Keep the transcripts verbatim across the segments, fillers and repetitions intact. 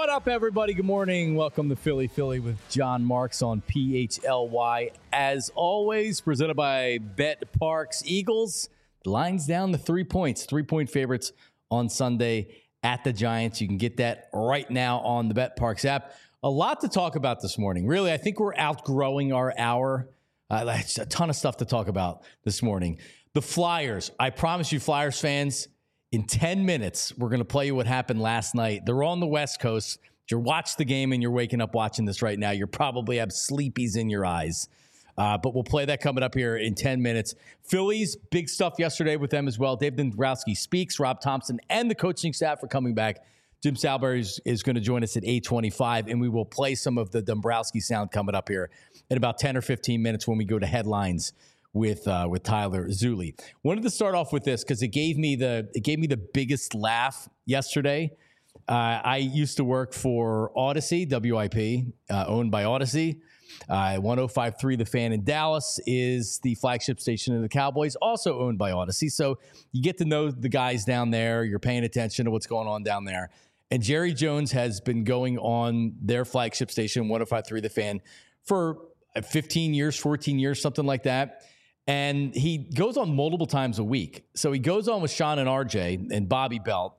What up, everybody? Good morning. Welcome to Philly Philly with John Marks on P H L Y. As always, presented by Bet Parks. Eagles, the line's down to three points. Three-point favorites on Sunday at the Giants. You can get that right now on the Bet Parks app. A lot to talk about this morning. Really, I think we're outgrowing our hour. Uh, that's a ton of stuff to talk about this morning. The Flyers. I promise you, Flyers fans, in ten minutes, we're going to play you what happened last night. They're on the West Coast. If you watch the game and you're waking up watching this right now, you probably have sleepies in your eyes. Uh, but we'll play that coming up here in ten minutes. Phillies, big stuff yesterday with them as well. Dave Dombrowski speaks. Rob Thompson and the coaching staff are coming back. Jim Salberry is, is going to join us at eight twenty-five, and we will play some of the Dombrowski sound coming up here in about ten or fifteen minutes when we go to headlines with uh, with Tyler Zulli. Wanted to start off with this because it gave me the it gave me the biggest laugh yesterday. Uh, I used to work for Odyssey, W I P, uh, owned by Odyssey. Uh, one oh five point three The Fan in Dallas is the flagship station of the Cowboys, also owned by Odyssey. So you get to know the guys down there. You're paying attention to what's going on down there. And Jerry Jones has been going on their flagship station, one oh five point three The Fan, for fifteen years, fourteen years, something like that. And he goes on multiple times a week. So he goes on with Sean and R J and Bobby Belt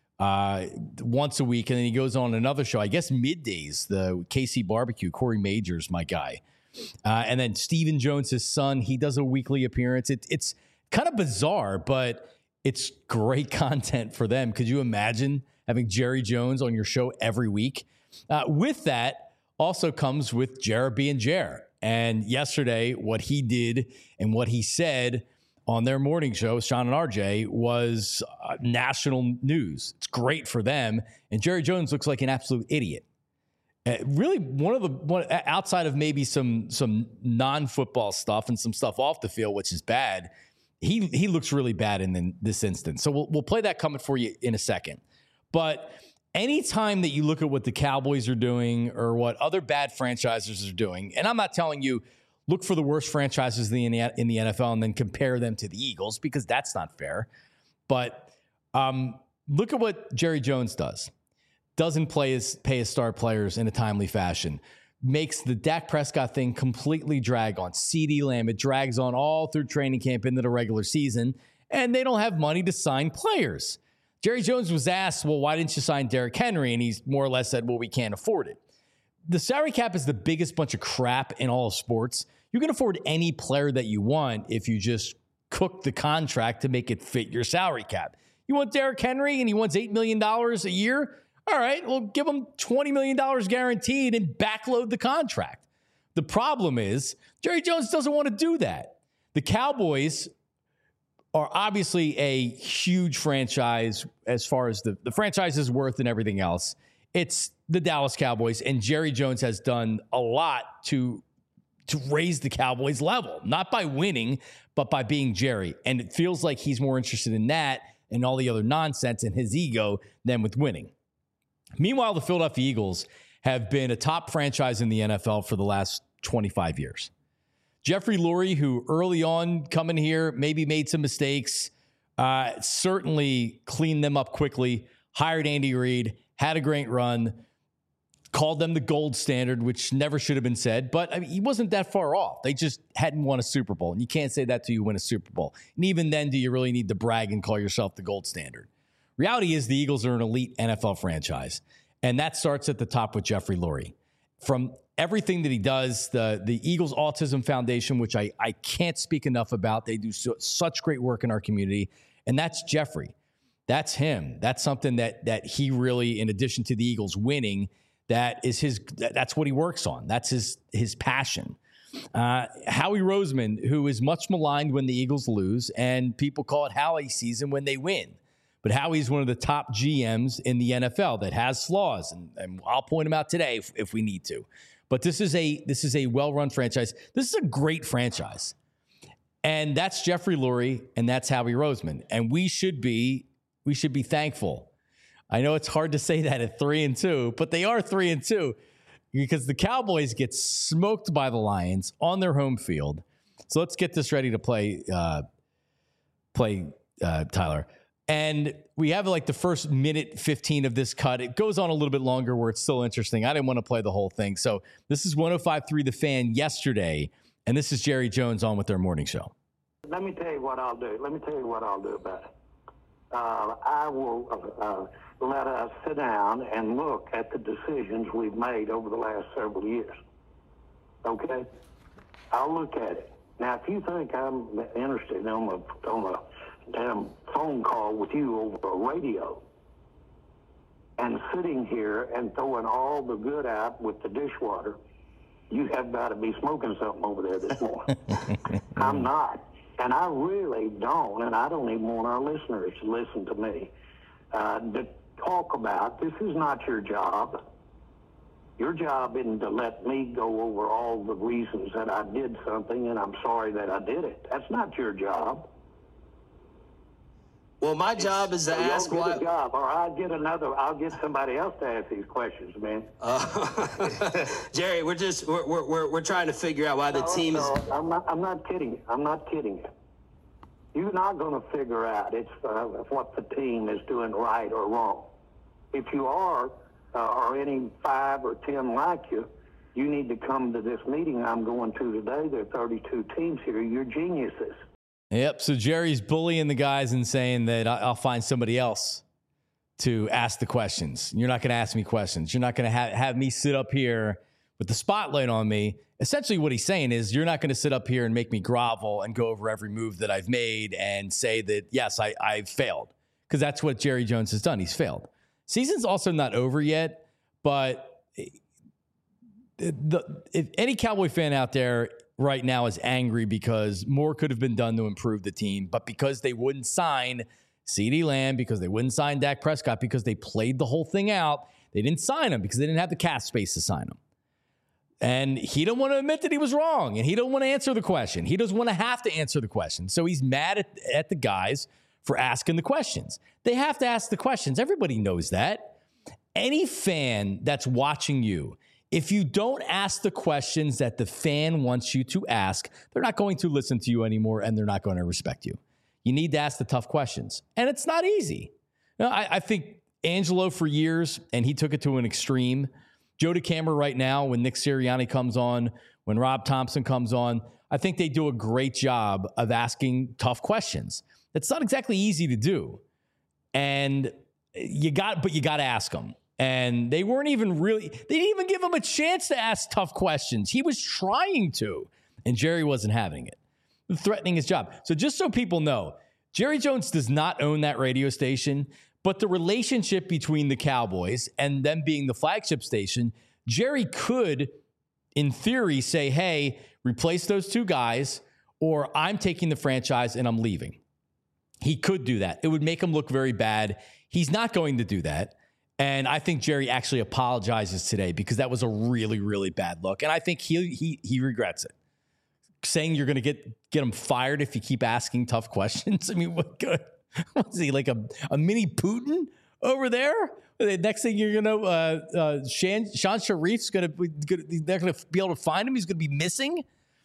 uh, once a week. And then he goes on another show, I guess middays, the K C Barbecue. Corey Majors, my guy. Uh, and then Stephen Jones, his son, he does a weekly appearance. It, it's kind of bizarre, but it's great content for them. Could you imagine having Jerry Jones on your show every week? Uh, with that also comes with Jared being Jer. And yesterday, what he did and what he said on their morning show, Sean and R J, was uh, national news. It's great for them. And Jerry Jones looks like an absolute idiot. Uh, really, one of the one, outside of maybe some some non-football stuff and some stuff off the field, which is bad, he he looks really bad in the, this instance. So we'll we'll play that coming for you in a second. But anytime that you look at what the Cowboys are doing or what other bad franchises are doing, and I'm not telling you look for the worst franchises in the, in the N F L and then compare them to the Eagles, because that's not fair. But um, look at what Jerry Jones does. Doesn't play his, pay his star players in a timely fashion. Makes the Dak Prescott thing completely drag on. CeeDee Lamb, it drags on all through training camp into the regular season, and they don't have money to sign players. Jerry Jones was asked, well, why didn't you sign Derrick Henry? And he's more or less said, well, we can't afford it. The salary cap is the biggest bunch of crap in all of sports. You can afford any player that you want if you just cook the contract to make it fit your salary cap. You want Derrick Henry and he wants eight million dollars a year? All right, well, give him twenty million dollars guaranteed and backload the contract. The problem is Jerry Jones doesn't want to do that. The Cowboys are obviously a huge franchise as far as the, the franchise's worth and everything else. It's the Dallas Cowboys, and Jerry Jones has done a lot to, to raise the Cowboys level, not by winning, but by being Jerry. And it feels like he's more interested in that and all the other nonsense and his ego than with winning. Meanwhile, the Philadelphia Eagles have been a top franchise in the N F L for the last twenty-five years. Jeffrey Lurie, who early on coming here, maybe made some mistakes, uh, certainly cleaned them up quickly, hired Andy Reid, had a great run, called them the gold standard, which never should have been said. But I mean, he wasn't that far off. They just hadn't won a Super Bowl. And you can't say that till you win a Super Bowl. And even then, do you really need to brag and call yourself the gold standard? Reality is the Eagles are an elite N F L franchise. And that starts at the top with Jeffrey Lurie. From everything that he does, the, the Eagles Autism Foundation, which I, I can't speak enough about. They do so, such great work in our community. And that's Jeffrey. That's him. That's something that that he really, in addition to the Eagles winning, that is his, that's what he works on. That's his, his passion. Uh, Howie Roseman, who is much maligned when the Eagles lose, and people call it Howie season when they win. But Howie's one of the top G Ms in the N F L that has flaws, and, and I'll point them out today if, if we need to. But this is a this is a well-run franchise. This is a great franchise. And that's Jeffrey Lurie, and that's Howie Roseman. And we should be we should be thankful. I know it's hard to say that at three and two, but they are three and two because the Cowboys get smoked by the Lions on their home field. So let's get this ready to play. Uh, play uh, Tyler. And we have like the first minute fifteen of this cut. It goes on a little bit longer where it's still interesting. I didn't want to play the whole thing. So this is one oh five point three The Fan yesterday. And this is Jerry Jones on with their morning show. Let me tell you what I'll do. Let me tell you what I'll do about it. Uh, I will uh, let us sit down and look at the decisions we've made over the last several years. Okay? I'll look at it. Now, if you think I'm interested on a, on a damn phone call with you over a radio and sitting here and throwing all the good out with the dishwater, you have got to be smoking something over there this morning. I'm not. And I really don't, and I don't even want our listeners to listen to me, uh, to talk about, this is not your job. Your job isn't to let me go over all the reasons that I did something and I'm sorry that I did it. That's not your job. Well, my job is to so ask why. why. A job, or I'll get another. I'll get somebody else to ask these questions, man. Uh, Jerry, we're just we're, we're we're trying to figure out why the no, team no, is. I'm not. I'm not kidding you. I'm not kidding you. You're not going to figure out it's uh, what the team is doing right or wrong. If you are, uh, or any five or ten like you, you need to come to this meeting I'm going to today. There are thirty-two teams here. You're geniuses. Yep. So Jerry's bullying the guys and saying that I'll find somebody else to ask the questions. You're not going to ask me questions. You're not going to have, have me sit up here with the spotlight on me. Essentially what he's saying is you're not going to sit up here and make me grovel and go over every move that I've made and say that, yes, I, I've failed. Because that's what Jerry Jones has done. He's failed. Season's also not over yet, but the, if any Cowboy fan out there right now is angry because more could have been done to improve the team, but because they wouldn't sign CeeDee Lamb, because they wouldn't sign Dak Prescott, because they played the whole thing out, they didn't sign him because they didn't have the cap space to sign him. And he don't want to admit that he was wrong, and he don't want to answer the question. He doesn't want to have to answer the question. So he's mad at, at the guys for asking the questions. They have to ask the questions. Everybody knows that. Any fan that's watching you, if you don't ask the questions that the fan wants you to ask, they're not going to listen to you anymore, and they're not going to respect you. You need to ask the tough questions. And it's not easy. You know, I, I think Angelo for years, and he took it to an extreme. Joe DeCamera right now, when Nick Sirianni comes on, when Rob Thompson comes on, I think they do a great job of asking tough questions. It's not exactly easy to do. And you got, but you got to ask them. And they weren't even really, they didn't even give him a chance to ask tough questions. He was trying to, and Jerry wasn't having it, threatening his job. So just so people know, Jerry Jones does not own that radio station, but the relationship between the Cowboys and them being the flagship station, Jerry could, in theory, say, hey, replace those two guys, or I'm taking the franchise and I'm leaving. He could do that. It would make him look very bad. He's not going to do that. And I think Jerry actually apologizes today because that was a really, really bad look. And I think he he he regrets it. Saying you're going to get get him fired if you keep asking tough questions. I mean, what good? What's he, like a, a mini Putin over there? The next thing you're going to, uh, uh, Shan, Sean Sharif's going to, they're going to be able to find him. He's going to be missing.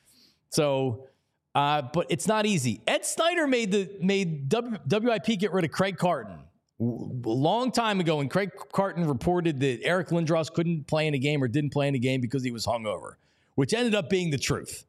So, uh, but it's not easy. Ed Snyder made the made w, W I P get rid of Craig Carton a long time ago when Craig Carton reported that Eric Lindros couldn't play in a game or didn't play in a game because he was hungover, which ended up being the truth.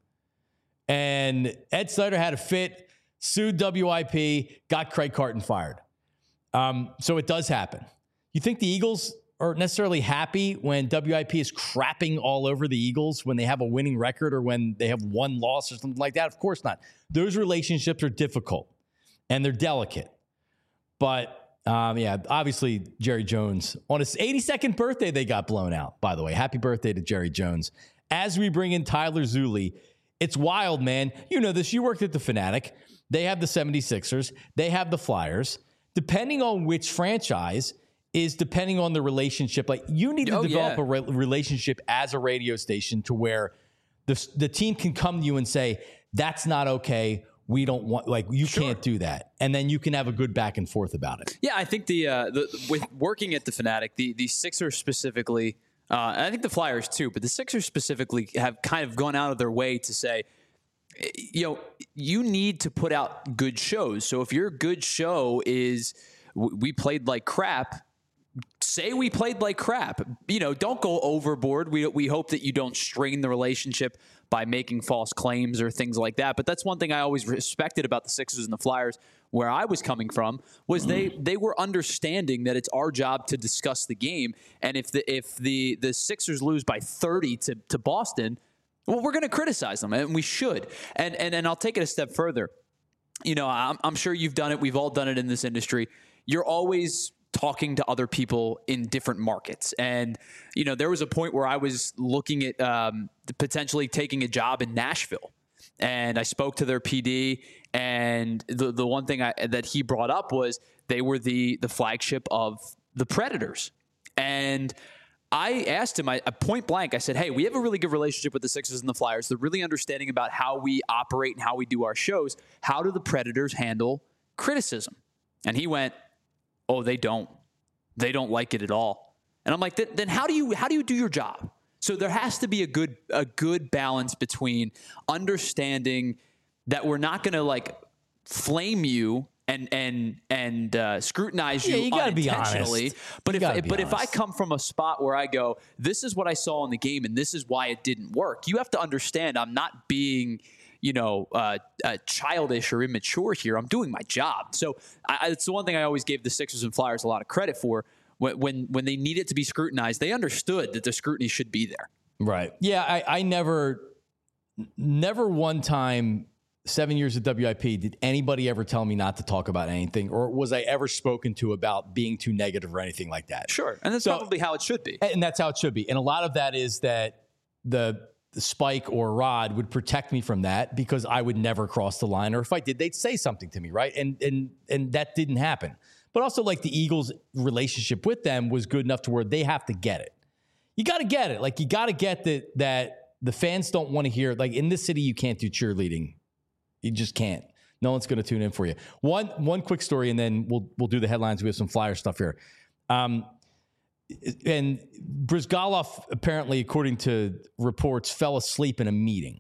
And Ed Snyder had a fit, sued W I P, got Craig Carton fired. Um, so it does happen. You think the Eagles are necessarily happy when W I P is crapping all over the Eagles when they have a winning record or when they have one loss or something like that? Of course not. Those relationships are difficult and they're delicate. But Um, yeah, obviously, Jerry Jones, on his eighty-second birthday, they got blown out, by the way. Happy birthday to Jerry Jones. As we bring in Tyler Zulli, it's wild, man. You know this. You worked at the Fanatic. They have the seventy-sixers. They have the Flyers. Depending on which franchise is depending on the relationship. Like, you need to oh, develop yeah. a re- relationship as a radio station to where the, the team can come to you and say, that's not okay. We don't want, like, you Sure. can't do that. And then you can have a good back and forth about it. Yeah, I think the, uh, the with working at the Fanatic, the, the Sixers specifically, uh, and I think the Flyers too, but the Sixers specifically have kind of gone out of their way to say, you know, you need to put out good shows. So if your good show is we played like crap, say we played like crap. You know, don't go overboard. We we hope that you don't strain the relationship by making false claims or things like that. But that's one thing I always respected about the Sixers and the Flyers, where I was coming from, was they they were understanding that it's our job to discuss the game. And if the if the the Sixers lose by thirty to to Boston, well, we're going to criticize them, and we should. And and and I'll take it a step further. You know, I'm, I'm sure you've done it. We've all done it in this industry. You're always talking to other people in different markets. And, you know, there was a point where I was looking at um, potentially taking a job in Nashville. And I spoke to their P D, and the the one thing I, that he brought up was they were the the flagship of the Predators. And I asked him, I, point blank, I said, hey, we have a really good relationship with the Sixers and the Flyers. They're really understanding about how we operate and how we do our shows. How do the Predators handle criticism? And he went, oh, they don't. They don't like it at all. And I'm like, then how do you how do you do your job? So there has to be a good a good balance between understanding that we're not going to like flame you and and and uh, scrutinize you, yeah, you gotta unintentionally. Be honest. But you if but honest. if I come from a spot where I go, this is what I saw in the game and this is why it didn't work, you have to understand I'm not being, you know, uh, uh, childish or immature here. I'm doing my job. So I, it's the one thing I always gave the Sixers and Flyers a lot of credit for. When when, when they needed to be scrutinized, they understood that the scrutiny should be there. Right. Yeah, I, I never, never one time, seven years at W I P, did anybody ever tell me not to talk about anything, or was I ever spoken to about being too negative or anything like that? Sure. And that's so, probably how it should be. And that's how it should be. And a lot of that is that the, the Spike or Rod would protect me from that because I would never cross the line, or if I did, they'd say something to me, right? And and and that didn't happen. But also, like, the Eagles' relationship with them was good enough to where they have to get it. You got to get it. Like, you got to get that that the fans don't want to hear. Like, in this city, you can't do cheerleading. You just can't. No one's going to tune in for you. One one quick story, and then we'll we'll do the headlines. We have some Flyer stuff here. Um, and Brizgalov, apparently, according to reports, fell asleep in a meeting.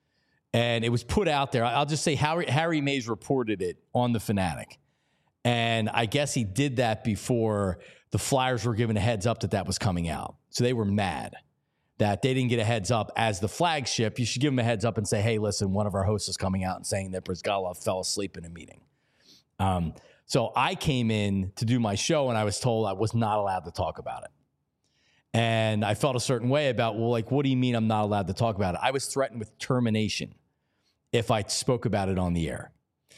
And it was put out there. I'll just say Harry, Harry Mays reported it on The Fanatic. And I guess he did that before the Flyers were given a heads up that that was coming out. So they were mad that they didn't get a heads up as the flagship. You should give them a heads up and say, hey, listen, one of our hosts is coming out and saying that Brizgalov fell asleep in a meeting. Um, so I came in to do my show, and I was told I was not allowed to talk about it. And I felt a certain way about, well, like, what do you mean I'm not allowed to talk about it? I was threatened with termination if I spoke about it on the air.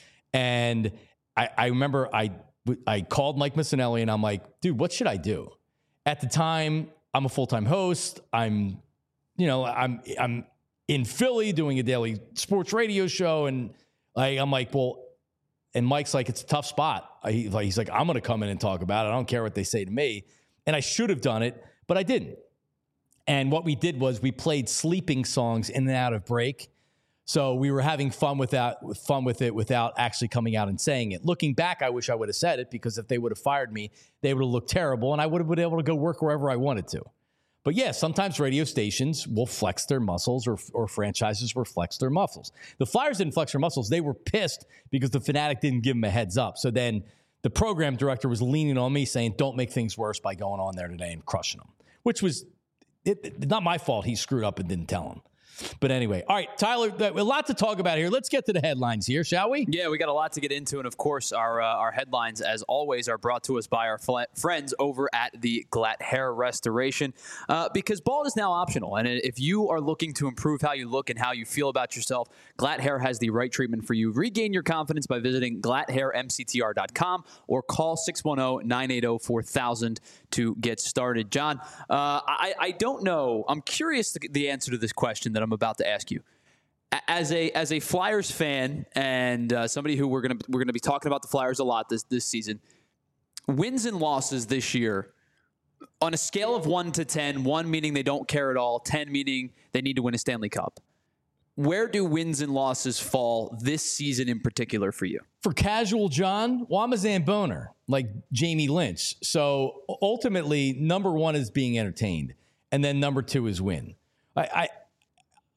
And I, I remember I I called Mike Missanelli, and I'm like, dude, what should I do? At the time, I'm a full-time host. I'm, you know, I'm I'm in Philly doing a daily sports radio show, and like I'm like, well, and Mike's like, it's a tough spot. I, like, he's like, I'm going to come in and talk about it. I don't care what they say to me, and I should have done it, but I didn't. And what we did was we played sleeping songs in and out of break. So we were having fun with that, with fun with it without actually coming out and saying it. Looking back, I wish I would have said it, because if they would have fired me, they would have looked terrible, and I would have been able to go work wherever I wanted to. But yeah, sometimes radio stations will flex their muscles, or or franchises will flex their muscles. The Flyers didn't flex their muscles. They were pissed because the Fanatic didn't give them a heads up. So then the program director was leaning on me saying, don't make things worse by going on there today and crushing them, which was it, it, not my fault. He screwed up and didn't tell him. But anyway, all right, Tyler, a lot to talk about here. Let's get to the headlines here, shall we? Yeah, we got a lot to get into. And, of course, our uh, our headlines, as always, are brought to us by our fl- friends over at the Glatt Hair Restoration, uh, because bald is now optional. And if you are looking to improve how you look and how you feel about yourself, Glatt Hair has the right treatment for you. Regain your confidence by visiting glatt hair m c t r dot com or call six one zero, nine eight zero, four thousand to get started. John, uh, I, I don't know. I'm curious the, the answer to this question that I'm about to ask you. As a as a Flyers fan and uh, somebody who we're gonna we're gonna be talking about the Flyers a lot this this season, wins and losses this year on a scale of one to ten, one meaning they don't care at all, ten meaning they need to win a Stanley Cup. Where do wins and losses fall this season in particular for you? For casual John, well, I'm a Zamboner, like Jamie Lynch. So ultimately, number one is being entertained, and then number two is win. I, I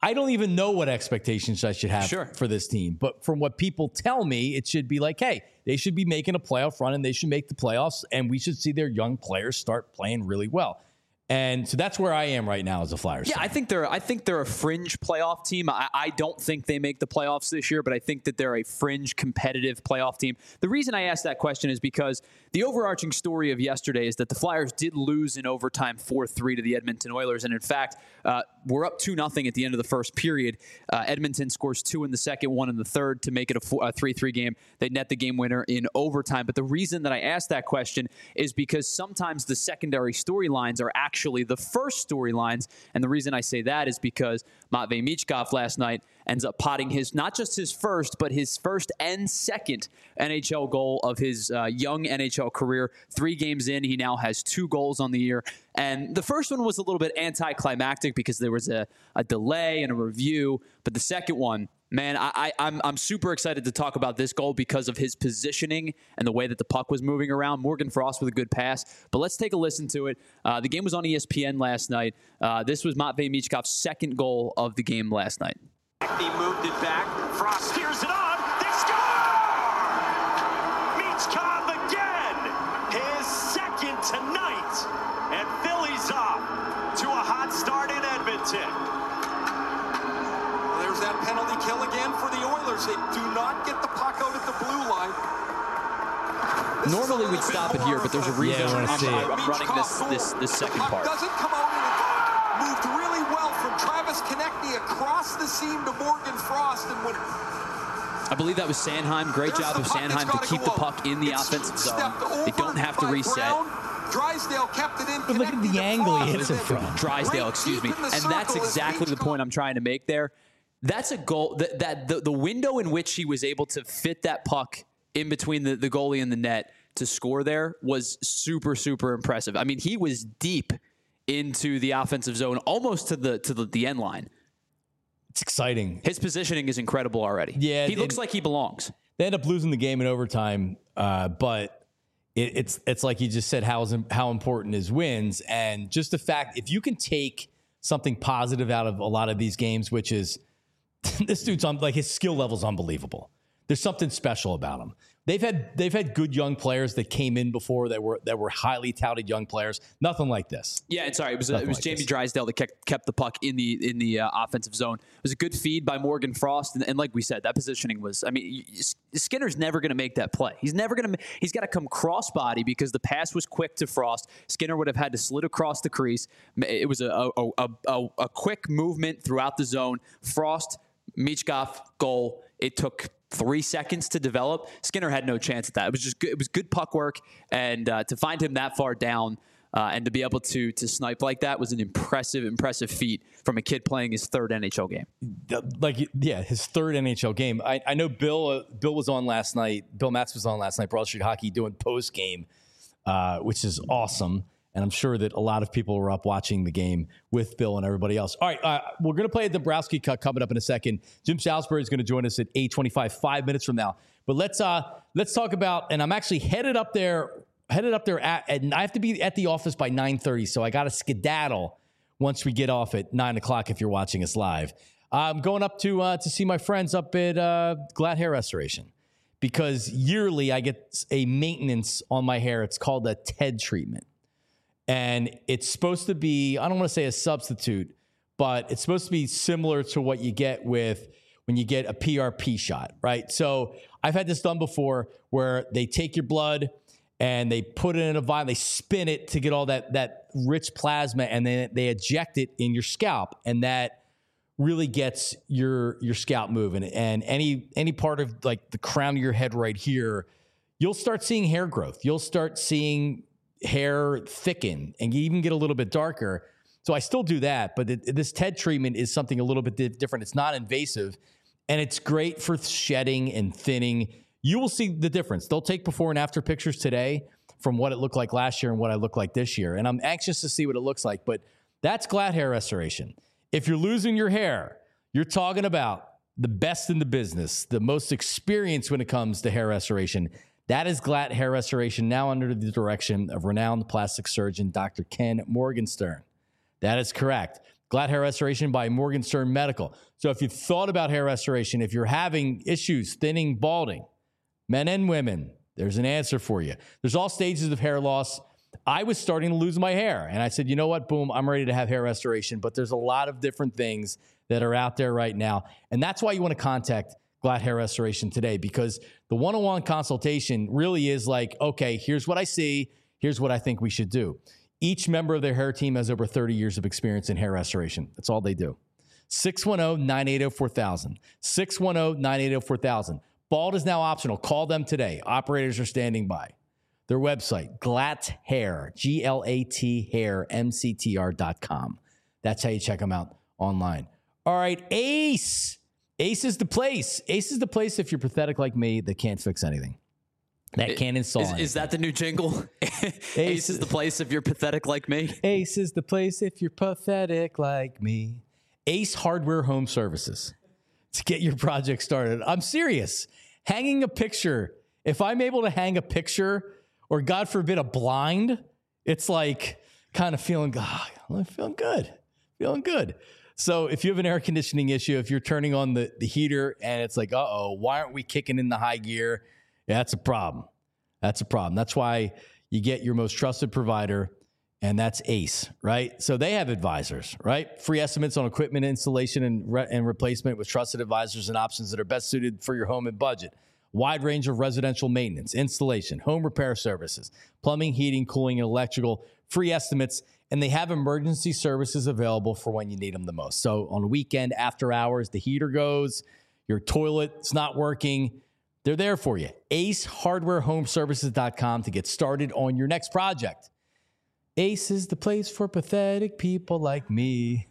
I don't even know what expectations I should have Sure. for this team. But from what people tell me, it should be like, hey, they should be making a playoff run and they should make the playoffs. And we should see their young players start playing really well. And so that's where I am right now as a Flyers Yeah, fan. I think they're I think they're a fringe playoff team. I, I don't think they make the playoffs this year, but I think that they're a fringe competitive playoff team. The reason I asked that question is because the overarching story of yesterday is that the Flyers did lose in overtime four three to the Edmonton Oilers. And in fact, uh, we're up two nothing at the end of the first period. Uh, Edmonton scores two in the second, one in the third to make it a three three game. They net the game winner in overtime. But the reason that I asked that question is because sometimes the secondary storylines are actually Actually, the first storylines, and the reason I say that is because Matvei Michkov last night ends up potting his, not just his first, but his first and second N H L goal of his uh, young N H L career. Three games in, he now has two goals on the year. And the first one was a little bit anticlimactic because there was a, a delay and a review, but the second one, man, I, I, I'm I'm super excited to talk about this goal because of his positioning and the way that the puck was moving around. Morgan Frost with a good pass. But let's take a listen to it. Uh, the game was on E S P N last night. Uh, this was Matvei Michkov's second goal of the game last night. He moved it back. Frost steers it on. They score! Michkov again. His second tonight. And Philly's off to a hot start in Edmonton. There's that penalty kill again for the Oilers. They do not get the puck out at the blue line. This Normally we'd stop it here, but there's a reason Yeah, I wanna I'm, see I'm, it. I'm running this this this second the puck part. doesn't come out, and it moved really well from Travis Konechny across the seam to Morgan Frost, and when I believe that was Sanheim. Great there's job the of puck, Sanheim it's to gotta keep go the out. puck in the It's offensive zone. stepped They don't over have to by reset. Brown. Drysdale kept it in. But look at Konechny the to angle he Frost, hits it and then from. Drysdale, right excuse deep me. in the And that's circle is exactly the Michkov. point I'm trying to make there. That's a goal that, that the, the window in which he was able to fit that puck in between the, the goalie and the net to score there was super, super impressive. I mean, he was deep into the offensive zone, almost to the to the, the end line. It's exciting. His positioning is incredible already. Yeah, he it- looks like he belongs. They end up losing the game in overtime, uh, but it, it's it's like you just said, how is how important is wins, and just the fact if you can take something positive out of a lot of these games, which is this dude's on like his skill level is unbelievable. There's something special about him. They've had they've had good young players that came in before that were that were highly touted young players. Nothing like this. Yeah, and sorry, it was uh, Nothing it was like Jamie this. Drysdale that kept kept the puck in the in the uh, offensive zone. It was a good feed by Morgan Frost, and, and like we said, that positioning was. I mean, y- Skinner's never going to make that play. He's never going to. He's got to come crossbody because the pass was quick to Frost. Skinner would have had to slid across the crease. It was a a, a, a, a quick movement throughout the zone. Frost, Michkov, goal. It took three seconds to develop. Skinner had no chance at that. It was just good. It was good puck work, and uh, to find him that far down uh, and to be able to to snipe like that was an impressive, impressive feat from a kid playing his third N H L game. Like yeah, his third N H L game. I, I know Bill uh, Bill was on last night. Bill Matz was on last night. Broad Street Hockey doing post game, uh, which is awesome. And I'm sure that a lot of people were up watching the game with Bill and everybody else. All right, uh, we're going to play a Dombrowski cut coming up in a second. Jim Salisbury is going to join us at eight twenty-five, five minutes from now. But let's uh, let's talk about. And I'm actually headed up there, headed up there at. And I have to be at the office by nine thirty, so I got to skedaddle once we get off at nine o'clock. If you're watching us live, I'm going up to uh, to see my friends up at uh, Glad Hair Restoration because yearly I get a maintenance on my hair. It's called a T E D treatment. And it's supposed to be, I don't want to say a substitute, but it's supposed to be similar to what you get with when you get a P R P shot, right? So I've had this done before where they take your blood and they put it in a vial, they spin it to get all that, that rich plasma, and then they eject it in your scalp. And that really gets your, your scalp moving. And any, any part of like the crown of your head right here, you'll start seeing hair growth. You'll start seeing hair thicken and you even get a little bit darker. So I still do that, but it, this T E D treatment is something a little bit di- different. It's not invasive and it's great for shedding and thinning. You will see the difference. They'll take before and after pictures today from what it looked like last year and what I look like this year. And I'm anxious to see what it looks like, but that's Glad Hair Restoration. If you're losing your hair, you're talking about the best in the business, the most experienced when it comes to hair restoration. That is Glad Hair Restoration, now under the direction of renowned plastic surgeon, Doctor Ken Morgenstern. That is correct. Glad Hair Restoration by Morgenstern Medical. So if you've thought about hair restoration, if you're having issues, thinning, balding, men and women, there's an answer for you. There's all stages of hair loss. I was starting to lose my hair, and I said, you know what, boom, I'm ready to have hair restoration. But there's a lot of different things that are out there right now, and that's why you want to contact Glad Hair Restoration today, because the one-on-one consultation really is like, okay, here's what I see, here's what I think we should do. Each member of their hair team has over thirty years of experience in hair restoration. That's all they do. six one zero, nine eight zero, four thousand. six one zero, nine eight zero, four thousand. Bald is now optional. Call them today. Operators are standing by. Their website, Glatt Hair, G L A T hair, M C T R dot com. That's how you check them out online. All right, Ace. Ace is the place. Ace is the place if you're pathetic like me that can't fix anything. That can't install Is, is that the new jingle? Ace, Ace is the place if you're pathetic like me. Ace is the place if you're pathetic like me. Ace Hardware Home Services. To get your project started. I'm serious. Hanging a picture. If I'm able to hang a picture, or God forbid a blind, it's like kind of feeling, oh, I'm feeling good, feeling good. So if you have an air conditioning issue, if you're turning on the, the heater and it's like, uh-oh, why aren't we kicking in the high gear? Yeah, that's a problem. That's a problem. That's why you get your most trusted provider, and that's Ace, right? So they have advisors, right? Free estimates on equipment installation and, re- and replacement with trusted advisors and options that are best suited for your home and budget. Wide range of residential maintenance, installation, home repair services, plumbing, heating, cooling, and electrical, free estimates, and they have emergency services available for when you need them the most. So on a weekend, after hours, the heater goes, your toilet's not working, they're there for you. ace hardware home services dot com to get started on your next project. Ace is the place for pathetic people like me.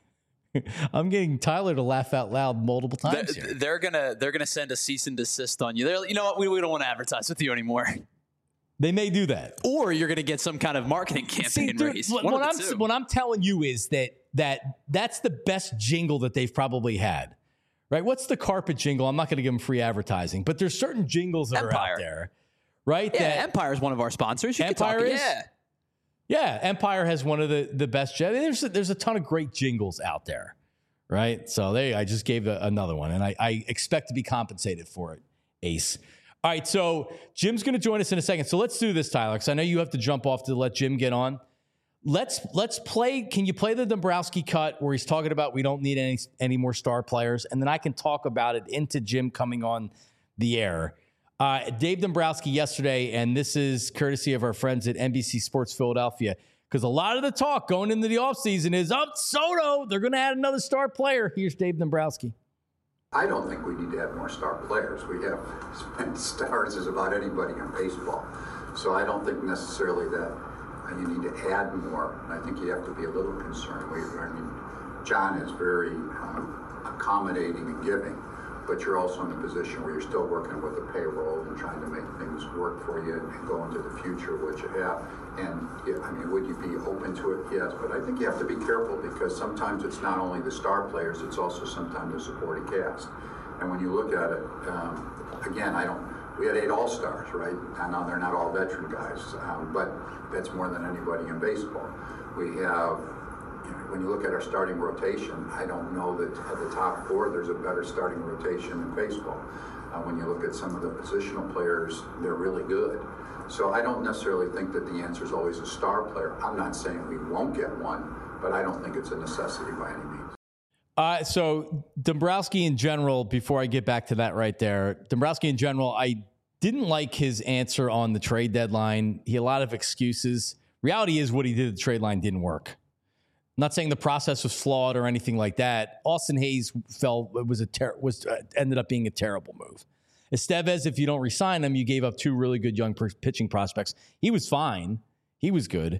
I'm getting Tyler to laugh out loud multiple times they're, here. They're gonna they're gonna send a cease and desist on you. They're, you know what? We, we don't want to advertise with you anymore. They may do that, or you're gonna get some kind of marketing campaign See, raise. What, what I'm two. what I'm telling you is that that that's the best jingle that they've probably had. Right? What's the carpet jingle? I'm not going to give them free advertising, but there's certain jingles that Empire. are out there, right? Yeah, that Empire is one of our sponsors. You Empire can talk, is. Yeah. Yeah, Empire has one of the, the best. There's a, there's a ton of great jingles out there, right? So they, I just gave a, another one, and I, I expect to be compensated for it, Ace. All right, so Jim's going to join us in a second. So let's do this, Tyler, because I know you have to jump off to let Jim get on. Let's let's play. Can you play the Dombrowski cut where he's talking about we don't need any any more star players, and then I can talk about it into Jim coming on the air. Uh, Dave Dombrowski yesterday, and this is courtesy of our friends at N B C Sports Philadelphia, because a lot of the talk going into the offseason is, oh, Soto, they're going to add another star player. Here's Dave Dombrowski. I don't think we need to have more star players. We have as many stars as about anybody in baseball. So I don't think necessarily that you need to add more. And I think you have to be a little concerned. We, I mean, John is very um, accommodating and giving, but you're also in a position where you're still working with the payroll and trying to make things work for you and go into the future, what you have. And yeah, I mean, would you be open to it? Yes, but I think you have to be careful, because sometimes it's not only the star players, it's also sometimes the supporting cast. And when you look at it, um, again, I don't, we had eight all-stars, right? I know they're not all veteran guys, um, but that's more than anybody in baseball. We have, you know, when you look at our starting rotation, I don't know that at the top four there's a better starting rotation in baseball. Uh, when you look at some of the positional players, they're really good. So I don't necessarily think that the answer is always a star player. I'm not saying we won't get one, but I don't think it's a necessity by any means. Uh, so Dombrowski in general, before I get back to that right there, Dombrowski in general, I didn't like his answer on the trade deadline. He had a lot of excuses. Reality is what he did at the trade line didn't work. I'm not saying the process was flawed or anything like that. Austin Hayes felt it was a ter- was uh, ended up being a terrible move. Estevez, if you don't re-sign him, you gave up two really good young per- pitching prospects. He was fine. He was good.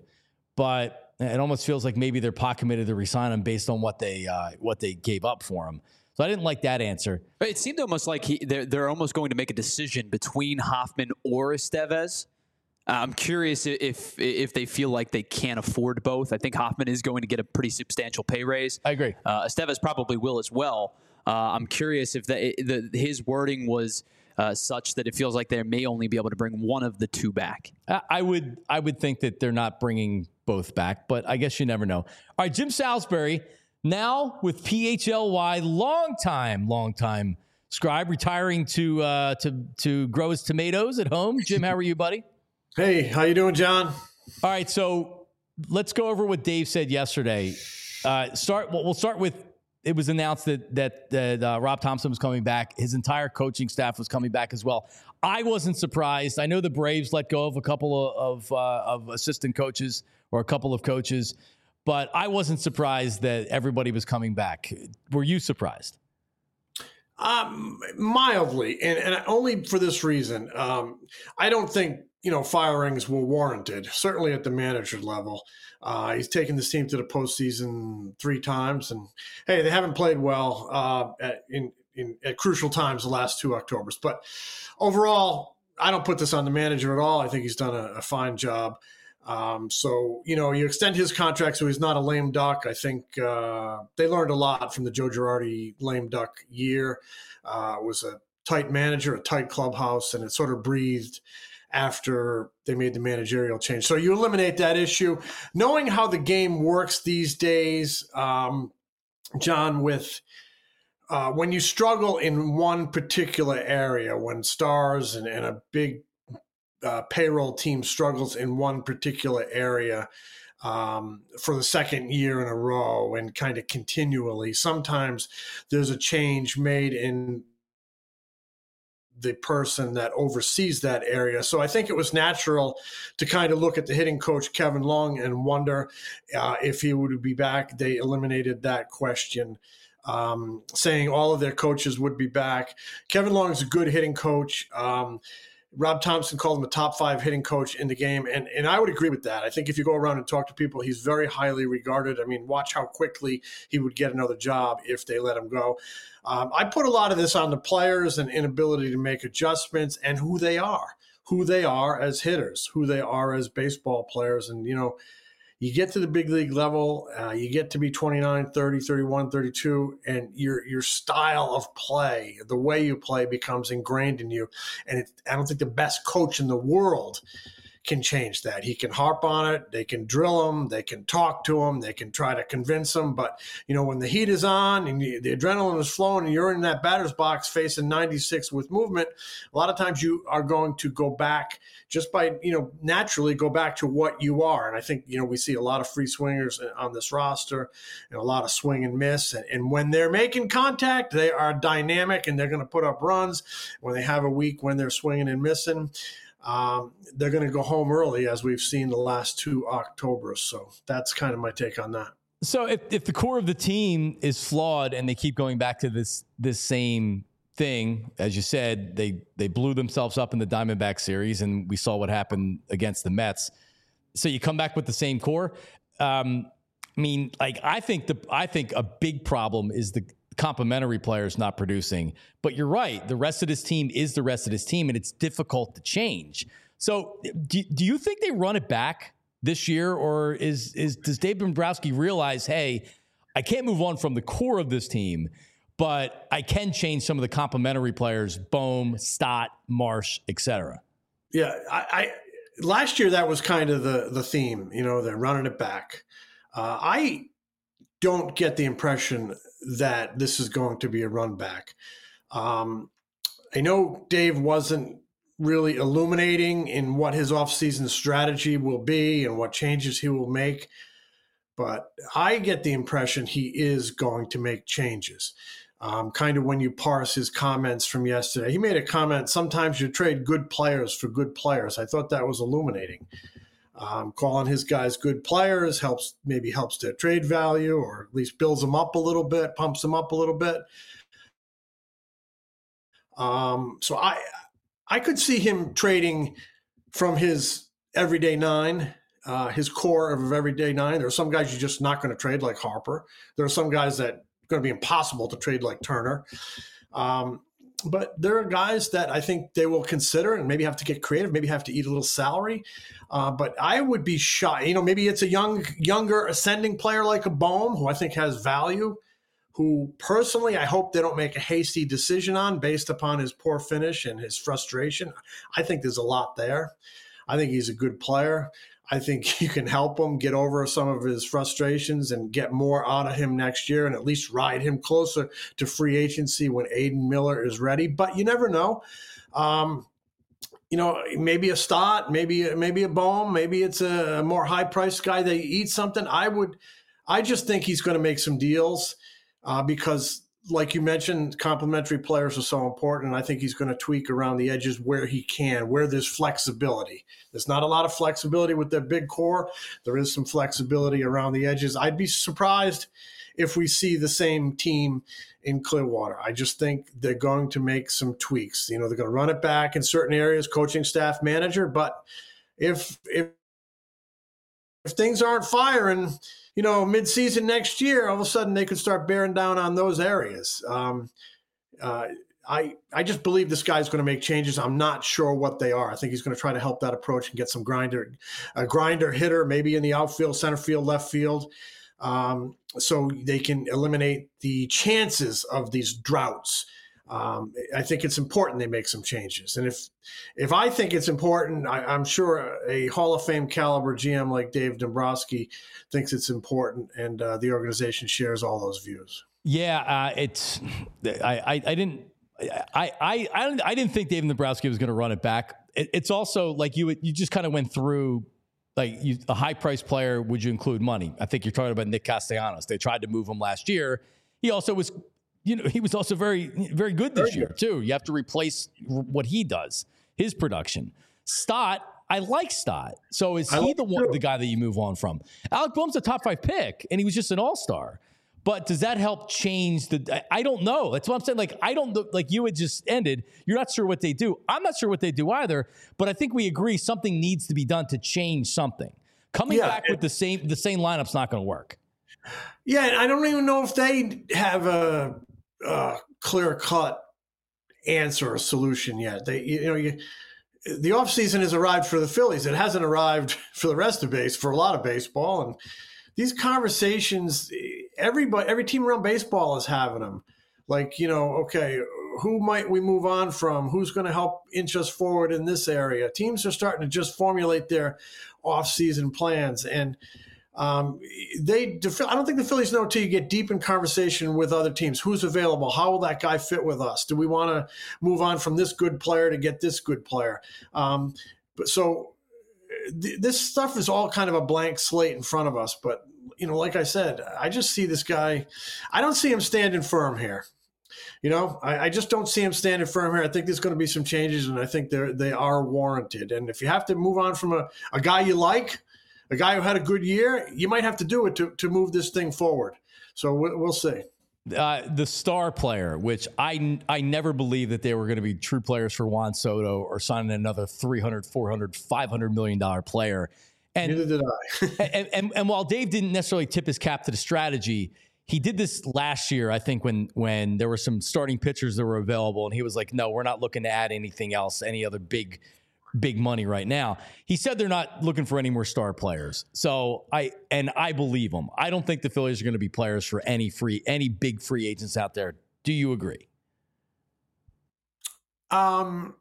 But it almost feels like maybe they're pot committed to re-sign him based on what they uh, what they gave up for him. So I didn't like that answer. It seemed almost like he, they're, they're almost going to make a decision between Hoffman or Estevez. Uh, I'm curious if if they feel like they can't afford both. I think Hoffman is going to get a pretty substantial pay raise. I agree. Uh, Estevez probably will as well. Uh, I'm curious if the, the, his wording was uh, such that it feels like they may only be able to bring one of the two back. I would I would think that they're not bringing both back, but I guess you never know. All right, Jim Salisbury, Now with P H L Y, long time, long time scribe, retiring to uh, to to grow his tomatoes at home. Jim, how are you, buddy? Hey, how you doing, John? All right, so let's go over what Dave said yesterday. Uh, start. Well, we'll start with. It was announced that that, that uh, Rob Thompson was coming back. His entire coaching staff was coming back as well. I wasn't surprised. I know the Braves let go of a couple of of, uh, of assistant coaches or a couple of coaches, but I wasn't surprised that everybody was coming back. Were you surprised? Um, mildly, and, and only for this reason. Um, I don't think, you know, firings were warranted, certainly at the manager level. Uh, he's taken this team to the postseason three times, and hey, they haven't played well uh, at, in, in at crucial times the last two Octobers. But overall, I don't put this on the manager at all. I think he's done a, a fine job. Um, so, you know, you extend his contract so he's not a lame duck. I think uh, they learned a lot from the Joe Girardi lame duck year. Uh, it was a tight manager, a tight clubhouse, and it sort of breathed after they made the managerial change. So you eliminate that issue. Knowing how the game works these days, um, John, with uh, when you struggle in one particular area, when stars and, and a big Uh, payroll team struggles in one particular area um, for the second year in a row and kind of continually, sometimes there's a change made in the person that oversees that area. So I think it was natural to kind of look at the hitting coach, Kevin Long, and wonder uh, if he would be back. They eliminated that question, um, saying all of their coaches would be back. Kevin Long is a good hitting coach. Um, Rob Thompson called him a top five hitting coach in the game, and and I would agree with that. I think if you go around and talk to people, he's very highly regarded. I mean, watch how quickly he would get another job if they let him go. Um, I put a lot of this on the players and inability to make adjustments and who they are, who they are as hitters, who they are as baseball players. And, you know, you get to the big league level, uh, you get to be twenty-nine, thirty, thirty-one, thirty-two, and your your style of play, the way you play becomes ingrained in you. And it, I don't think the best coach in the world can change that. He can harp on it. They can drill him. They can talk to him. They can try to convince him. But, you know, when the heat is on and you, the adrenaline is flowing and you're in that batter's box facing ninety-six with movement, a lot of times you are going to go back just by, you know, naturally go back to what you are. And I think, you know, we see a lot of free swingers on this roster and a lot of swing and miss. And, and when they're making contact, they are dynamic and they're going to put up runs. When they have a week when they're swinging and missing, Um, they're going to go home early, as we've seen the last two Octobers. So that's kind of my take on that. So if, if the core of the team is flawed and they keep going back to this this same thing, as you said, they they blew themselves up in the Diamondback series, and we saw what happened against the Mets. So you come back with the same core. Um, I mean, like I think the I think a big problem is the complementary players not producing. But you're right. The rest of this team is the rest of this team, and it's difficult to change. So do, do you think they run it back this year, or is is does Dave Dombrowski realize, hey, I can't move on from the core of this team, but I can change some of the complementary players, Bohm, Stott, Marsh, et cetera? Yeah, I, I last year that was kind of the the theme. You know, they're running it back. Uh, I don't get the impression that this is going to be a run back. Um, I know Dave wasn't really illuminating in what his offseason strategy will be and what changes he will make, but I get the impression he is going to make changes. Um, kind of when you parse his comments from yesterday, he made a comment, sometimes you trade good players for good players. I thought that was illuminating. Um, calling his guys good players helps, maybe helps their trade value, or at least builds them up a little bit, pumps them up a little bit. Um, so I, I could see him trading from his everyday nine, uh, his core of everyday nine. There are some guys you're just not going to trade, like Harper. There are some guys that are going to be impossible to trade, like Turner. Um, But there are guys that I think they will consider and maybe have to get creative, maybe have to eat a little salary. Uh, but I would be shy. You know, maybe it's a young, younger ascending player like a Bohm, who I think has value, who personally I hope they don't make a hasty decision on based upon his poor finish and his frustration. I think there's a lot there. I think he's a good player. I think you can help him get over some of his frustrations and get more out of him next year and at least ride him closer to free agency when Aiden Miller is ready. But you never know. Um, you know, maybe a Stott, maybe maybe a Bohm, maybe it's a more high-priced guy that eats something. I would, I just think he's going to make some deals uh, because – like you mentioned, complementary players are so important, and I think he's going to tweak around the edges where he can, where there's flexibility. There's not a lot of flexibility with their big core. There is some flexibility around the edges. I'd be surprised if we see the same team in Clearwater. I just think they're going to make some tweaks. You know, they're going to run it back in certain areas, coaching staff, manager, but if if if things aren't firing – you know, mid-season next year, all of a sudden they could start bearing down on those areas. Um, uh, I I just believe this guy's going to make changes. I'm not sure what they are. I think he's going to try to help that approach and get some grinder, a grinder hitter, maybe in the outfield, center field, left field, um, so they can eliminate the chances of these droughts. Um, I think it's important they make some changes. And if if I think it's important, I, I'm sure a Hall of Fame caliber G M like Dave Dombrowski thinks it's important, and uh, the organization shares all those views. Yeah, uh, it's I, I, I didn't I, I I I didn't think Dave Dombrowski was going to run it back. It, it's also like you you just kind of went through like you, a high price player. Would you include money? I think you're talking about Nick Castellanos. They tried to move him last year. He also was. You know, he was also very, very good this year, too. You have to replace what he does, his production. Stott, I like Stott. So is he the one, the guy that you move on from? Alec Boehm's a top five pick, and he was just an all-star. But does that help change the – I don't know. That's what I'm saying. Like, I don't – like you had just ended. You're not sure what they do. I'm not sure what they do either. But I think we agree something needs to be done to change something. Coming yeah, back it, with the same the same lineup's not going to work. Yeah, and I don't even know if they have a – Uh, clear-cut answer or solution yet. They, you know, you, the offseason has arrived for the Phillies. It hasn't arrived for the rest of base, for a lot of baseball. And these conversations, everybody, every team around baseball is having them. Like, you know, okay, who might we move on from? Who's going to help inch us forward in this area? Teams are starting to just formulate their offseason plans. And Um, they, I don't think the Phillies know until you get deep in conversation with other teams. Who's available? How will that guy fit with us? Do we want to move on from this good player to get this good player? Um, but so th- this stuff is all kind of a blank slate in front of us. But, you know, like I said, I just see this guy. I don't see him standing firm here. You know, I, I just don't see him standing firm here. I think there's going to be some changes, and I think they're, they are warranted. And if you have to move on from a, a guy you like, a guy who had a good year, you might have to do it to, to move this thing forward. So we'll, we'll see. Uh, the star player, which I, I never believed that they were going to be true players for Juan Soto or signing another three hundred, four hundred, five hundred million dollars player. And, Neither did I. and, and, and while Dave didn't necessarily tip his cap to the strategy, he did this last year, I think, when when there were some starting pitchers that were available, and he was like, no, we're not looking to add anything else, any other big big money right now. He said they're not looking for any more star players. So I, and I believe him. I don't think the Phillies are going to be players for any free, any big free agents out there. Do you agree? Um,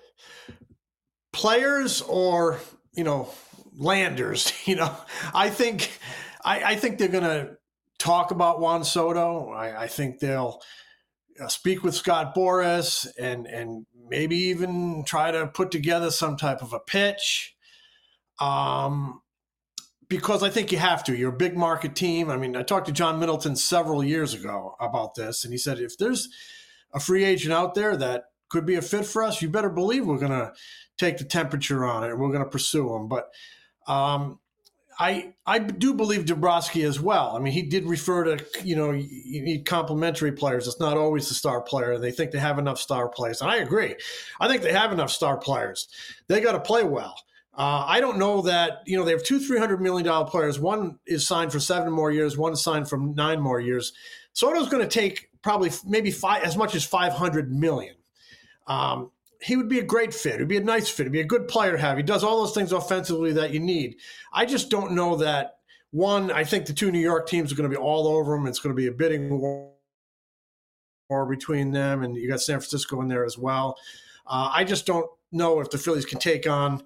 players or, you know, landers, you know, I think, I, I think they're going to talk about Juan Soto. I, I think they'll uh, speak with Scott Boras and, and, maybe even try to put together some type of a pitch, um, because I think you have to. You're a big market team. I mean, I talked to John Middleton several years ago about this, and he said, if there's a free agent out there that could be a fit for us, you better believe we're going to take the temperature on it and we're going to pursue him. But um, I I do believe Dombrowski as well. I mean, he did refer to, you know, you need complementary players. It's not always the star player. They think they have enough star players. And I agree. I think they have enough star players. They got to play well. Uh, I don't know that, you know, they have two three hundred million dollars players. One is signed for seven more years. One is signed for nine more years. Soto's going to take probably maybe five, as much as five hundred million dollars. Um, he would be a great fit. He'd be a nice fit. He'd be a good player to have. He does all those things offensively that you need. I just don't know that, one, I think the two New York teams are going to be all over him. It's going to be a bidding war between them, and you got San Francisco in there as well. Uh, I just don't know if the Phillies can take on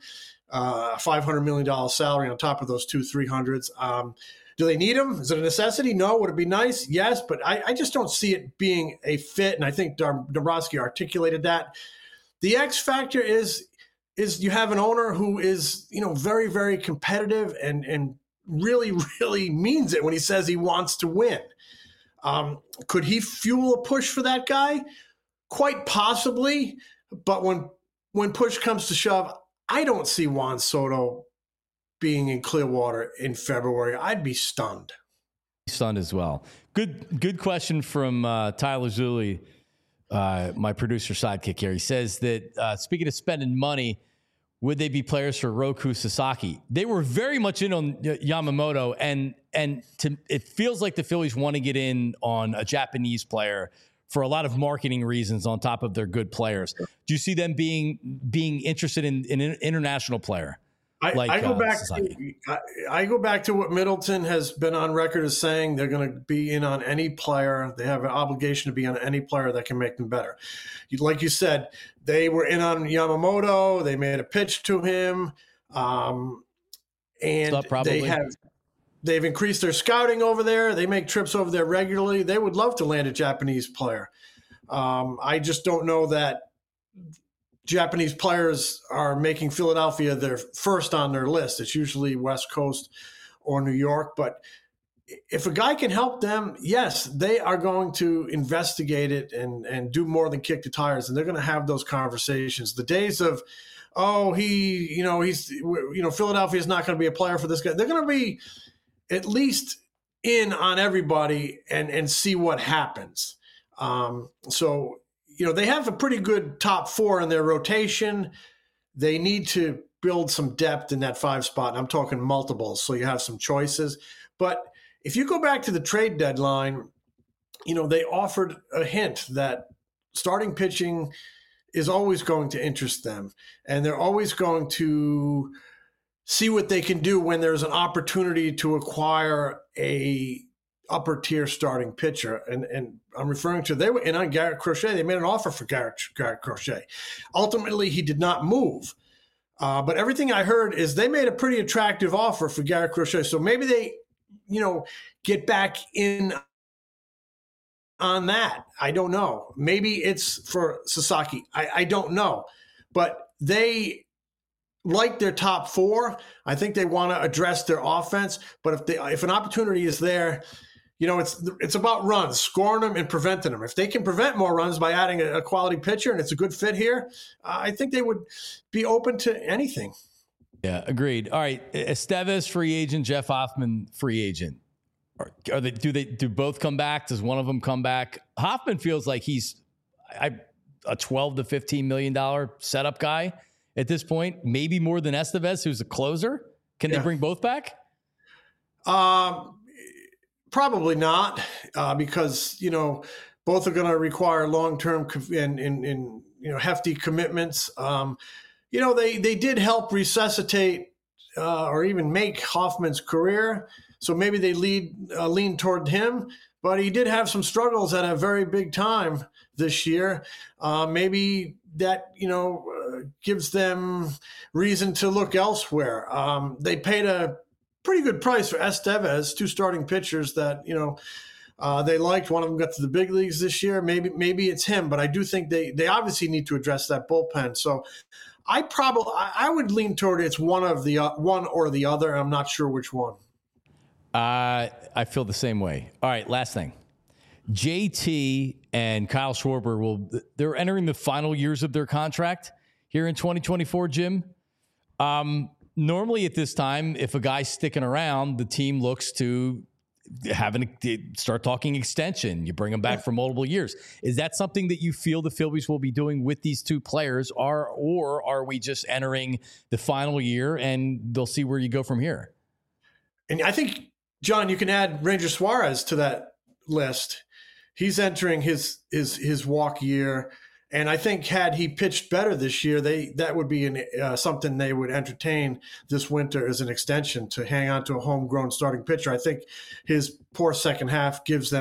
uh, five hundred million dollars salary on top of those two three hundreds. Um, do they need him? Is it a necessity? No. Would it be nice? Yes, but I, I just don't see it being a fit. And I think Dombrowski articulated that. The X factor is is you have an owner who is, you know, very, very competitive and and really, really means it when he says he wants to win. Um, could he fuel a push for that guy? Quite possibly. But when when push comes to shove, I don't see Juan Soto being in Clearwater in February. I'd be stunned. Stunned as well. Good good question from uh, Tyler Zulli, uh, my producer sidekick here. He says that, uh, speaking of spending money, would they be players for Roku Sasaki? They were very much in on Yamamoto, and and to, it feels like the Phillies want to get in on a Japanese player for a lot of marketing reasons on top of their good players. Do you see them being being interested in, in an international player? I, like, I go uh, back. Sasaki? To, I, I go back to what Middleton has been on record as saying. They're going to be in on any player. They have an obligation to be on any player that can make them better. Like you said, they were in on Yamamoto. They made a pitch to him, um, and they have they've increased their scouting over there. They make trips over there regularly. They would love to land a Japanese player. Um, I just don't know that Japanese players are making Philadelphia their first on their list. It's usually West Coast or New York. But if a guy can help them, yes, they are going to investigate it and, and do more than kick the tires. And they're going to have those conversations. The days of, oh, he, you know, he's, you know, Philadelphia is not going to be a player for this guy. They're going to be at least in on everybody and, and see what happens. Um, so, you know, they have a pretty good top four in their rotation. They need to build some depth in that five spot. And I'm talking multiples, so you have some choices. But if you go back to the trade deadline, you know, they offered a hint that starting pitching is always going to interest them. And they're always going to see what they can do when there's an opportunity to acquire a upper tier starting pitcher. And and I'm referring to, they were in on Garrett Crochet. They made an offer for Garrett, Garrett Crochet. Ultimately, he did not move. Uh, but everything I heard is they made a pretty attractive offer for Garrett Crochet. So maybe they, you know, get back in on that. I don't know. Maybe it's for Sasaki. I, I don't know. But they like their top four. I think they want to address their offense. But if they, if an opportunity is there, you know, it's it's about runs, scoring them and preventing them. If they can prevent more runs by adding a, a quality pitcher and it's a good fit here, uh, I think they would be open to anything. Yeah, agreed. All right, Estevez free agent, Jeff Hoffman free agent. Are, are they? Do they? Do both come back? Does one of them come back? Hoffman feels like he's I, a twelve to fifteen million dollar setup guy at this point. Maybe more than Estevez, who's a closer. Can yeah. they bring both back? Um. Probably not, uh, because, you know, both are going to require long-term and, and, and, you know, hefty commitments. Um, you know, they, they did help resuscitate uh, or even make Hoffman's career. So maybe they lead uh, lean toward him, but he did have some struggles at a very big time this year. Uh, maybe that, you know, uh, gives them reason to look elsewhere. Um, they paid a pretty good price for Estevez, two starting pitchers that, you know, uh, they liked. One of them got to the big leagues this year. Maybe maybe it's him, but I do think they they obviously need to address that bullpen. So I probably I would lean toward it's one of the uh, one or the other. I'm not sure which one. Uh, I feel the same way. All right, last thing. J T and Kyle Schwarber will they're entering the final years of their contract here in twenty twenty-four, Jim. Um. Normally at this time, if a guy's sticking around, the team looks to having to start talking extension. You bring them back for multiple years. Is that something that you feel the Phillies will be doing with these two players, or, or are we just entering the final year and they'll see where you go from here? And I think, John, you can add Ranger Suarez to that list. He's entering his his his walk year. And I think had he pitched better this year, they that would be an, uh, something they would entertain this winter as an extension to hang on to a homegrown starting pitcher. I think his poor second half gives them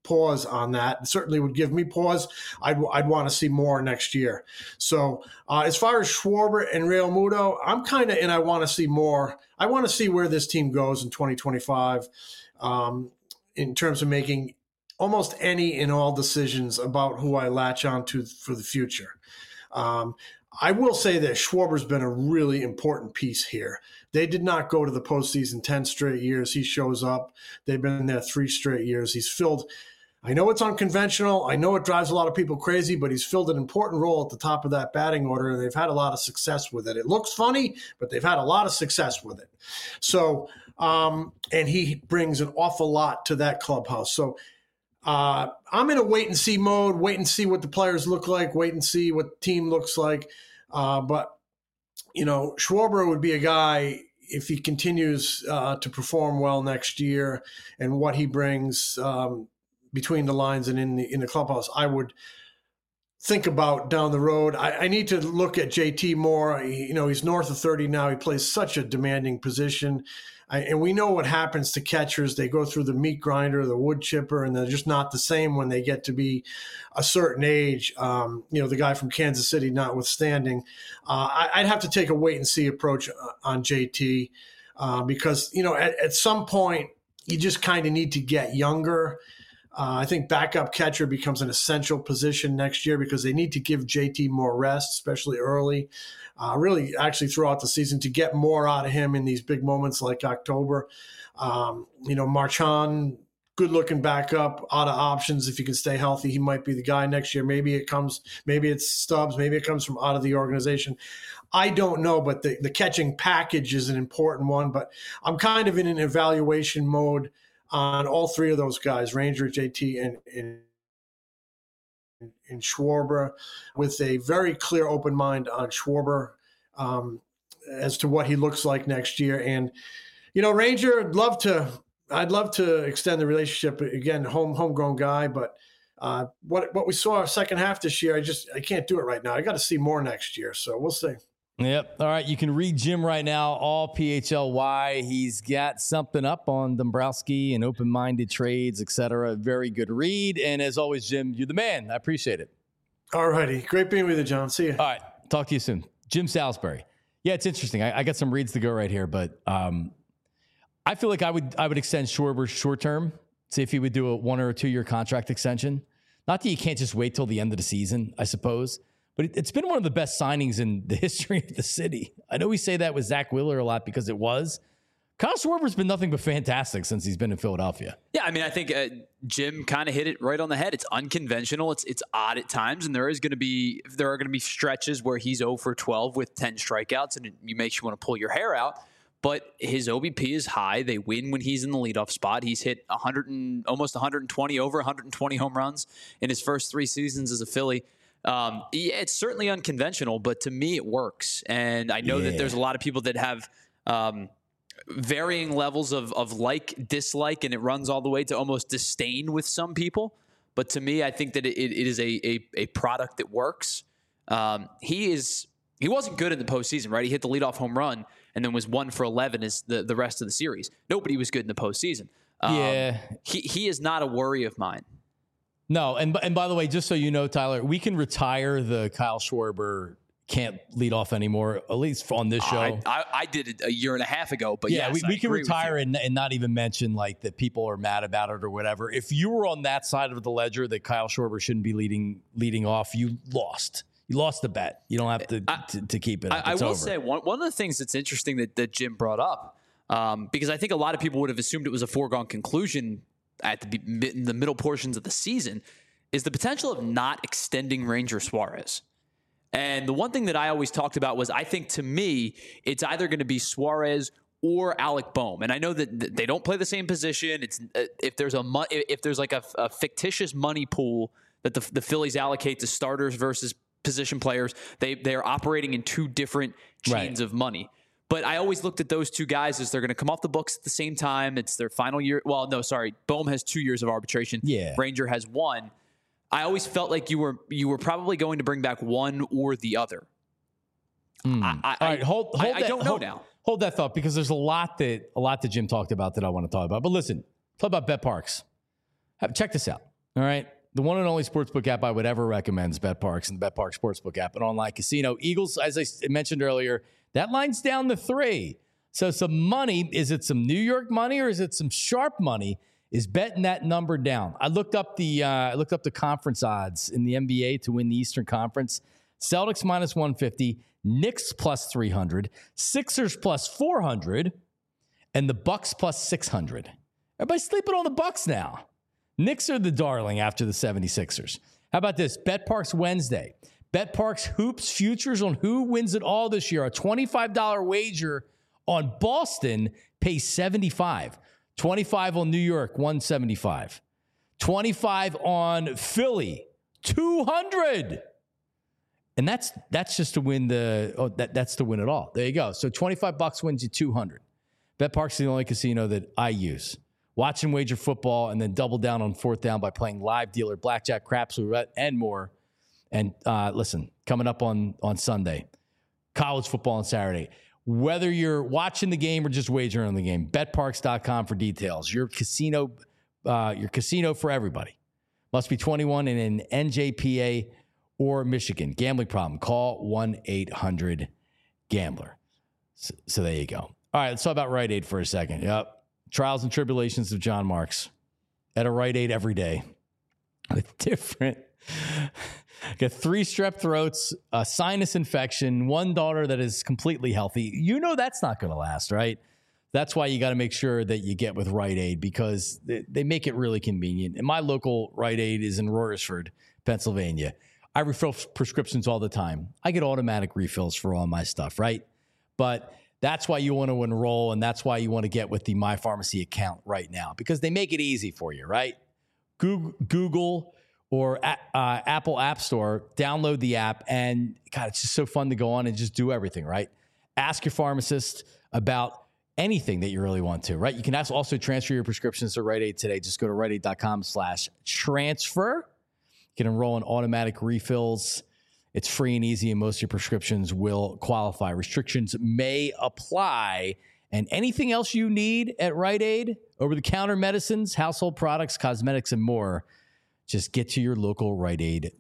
pause on that. It certainly would give me pause. I'd, I'd want to see more next year. So uh, as far as Schwarber and Real Muto, I'm kind of in. I want to see more. I want to see where this team goes in twenty twenty-five um, in terms of making almost any and all decisions about who I latch on to for the future. Um, I will say that Schwarber's been a really important piece here. They did not go to the postseason ten straight years. He shows up. They've been there three straight years. He's filled, I know it's unconventional. I know it drives a lot of people crazy, but he's filled an important role at the top of that batting order, and they've had a lot of success with it. It looks funny, but they've had a lot of success with it. So, um, and he brings an awful lot to that clubhouse. So, Uh, I'm in a wait and see mode, wait and see what the players look like, wait and see what the team looks like. Uh, but, you know, Schwarber would be a guy, if he continues uh, to perform well next year and what he brings um, between the lines and in the, in the clubhouse, I would think about down the road. I, I need to look at J T more. He, you know, he's north of thirty now. He plays such a demanding position. I, and we know what happens to catchers. They go through the meat grinder, the wood chipper, and they're just not the same when they get to be a certain age. Um, you know, the guy from Kansas City notwithstanding. Uh, I, I'd have to take a wait-and-see approach on J T uh, because, you know, at, at some point, you just kind of need to get younger. Uh, I think backup catcher becomes an essential position next year because they need to give J T more rest, especially early. Uh, really, actually, throughout the season to get more out of him in these big moments like October. Um, you know, Marchand, good-looking backup, out of options. If he can stay healthy, he might be the guy next year. Maybe it comes, maybe it's Stubbs, maybe it comes from out of the organization. I don't know, but the, the catching package is an important one. But I'm kind of in an evaluation mode on all three of those guys, Ranger, J T, and, and in Schwarber, with a very clear open mind on Schwarber um, as to what he looks like next year. And, you know, Ranger, I'd love to, I'd love to extend the relationship. Again, home homegrown guy, but uh, what what we saw second half this year, I just I can't do it right now. I got to see more next year, so we'll see. Yep. All right. You can read Jim right now, all P H L Y. He's got something up on Dombrowski and open-minded trades, et cetera. Very good read. And as always, Jim, you're the man. I appreciate it. All righty. Great being with you, John. See you. All right. Talk to you soon. Jim Salisbury. Yeah, it's interesting. I, I got some reads to go right here, but um, I feel like I would I would extend Schwarber short term, see if he would do a one or a two-year contract extension. Not that you can't just wait till the end of the season, I suppose. But it, it's been one of the best signings in the history of the city. I know we say that with Zach Wheeler a lot because it was. Kyle Schwarber's been nothing but fantastic since he's been in Philadelphia. Yeah, I mean, I think uh, Jim kind of hit it right on the head. It's unconventional. It's it's odd at times, and there is going to be there are going to be stretches where he's zero for twelve with ten strikeouts, and it makes you want to pull your hair out. But his O B P is high. They win when he's in the leadoff spot. He's hit one hundred and almost one hundred twenty over one hundred twenty home runs in his first three seasons as a Philly. Um, yeah, it's certainly unconventional, but to me it works. And I know yeah. that there's a lot of people that have um, varying levels of, of like, dislike, and it runs all the way to almost disdain with some people. But to me, I think that it, it is a, a, a product that works. Um, he is, he wasn't good in the postseason, right? He hit the leadoff home run and then was one for eleven as the, the rest of the series. Nobody was good in the postseason. Um, yeah. He, he is not a worry of mine. No, and and by the way, just so you know, Tyler, we can retire the Kyle Schwarber can't lead off anymore, at least on this show. I, I, I did it a year and a half ago, but yeah, yes, we, we I can retire and, and not even mention like that people are mad about it or whatever. If you were on that side of the ledger that Kyle Schwarber shouldn't be leading leading off, you lost. You lost the bet. You don't have to I, to, to keep it up. I, I will over. say one one of the things that's interesting that, that Jim brought up, um, because I think a lot of people would have assumed it was a foregone conclusion at the in the middle portions of the season, is the potential of not extending Ranger Suarez. And the one thing that I always talked about was I think to me, it's either going to be Suarez or Alec Bohm. And I know that they don't play the same position. It's uh, if there's a if there's like a, a fictitious money pool that the, the Phillies allocate to starters versus position players, they they're operating in two different chains right. of money. But I always looked at those two guys as they're going to come off the books at the same time. It's their final year. Well, no, sorry. Bohm has two years of arbitration. Yeah. Ranger has one. I always felt like you were you were probably going to bring back one or the other. Mm. I, I, All right, hold, hold I, that, I don't know hold, now. Hold that thought because there's a lot that a lot that Jim talked about that I want to talk about. But listen, talk about Bet Parks. Have, check this out. All right. The one and only sportsbook app I would ever recommend is BetParks and the BetParks Sportsbook app, an online casino. Eagles, as I mentioned earlier, that line's down to three. So some money, is it some New York money or is it some sharp money, is betting that number down. I looked up the uh, I looked up the conference odds in the N B A to win the Eastern Conference. Celtics minus one fifty, Knicks plus three hundred, Sixers plus four hundred, and the Bucks plus six hundred. Everybody's sleeping on the Bucks now. Knicks are the darling after the seventy-sixers. How about this? BetParks Wednesday. BetParks Hoops futures on who wins it all this year. A twenty-five dollars wager on Boston pays seventy-five. twenty-five on New York, one seventy-five. twenty-five on Philly, two hundred. And that's that's just to win the oh that that's to win it all. There you go. So twenty-five bucks wins you two hundred. BetParks is the only casino that I use. Watch and wager football and then double down on fourth down by playing live dealer, blackjack, craps, roulette, and more. And uh, listen, coming up on, on Sunday, college football on Saturday. Whether you're watching the game or just wagering on the game, bet parks dot com for details. Your casino, uh, your casino for everybody. Must be twenty-one and in N J P A or Michigan. Gambling problem, call one eight hundred gambler. So, so there you go. All right, let's talk about Rite Aid for a second. Yep. Trials and tribulations of John Marks at a Rite Aid every day with different. Got three strep throats, a sinus infection, one daughter that is completely healthy. You know that's not going to last, right? That's why you got to make sure that you get with Rite Aid because they, they make it really convenient. And my local Rite Aid is in Royersford, Pennsylvania. I refill prescriptions all the time. I get automatic refills for all my stuff, right? But that's why you want to enroll, and that's why you want to get with the My Pharmacy account right now because they make it easy for you, right? Google, Google or uh, Apple App Store, download the app, and God, it's just so fun to go on and just do everything, right? Ask your pharmacist about anything that you really want to, right? You can also transfer your prescriptions to Rite Aid today. Just go to rite aid dot com slash transfer. You can enroll in automatic refills. It's free and easy, and most of your prescriptions will qualify. Restrictions may apply. And anything else you need at Rite Aid, over-the-counter medicines, household products, cosmetics, and more, just get to your local Rite Aid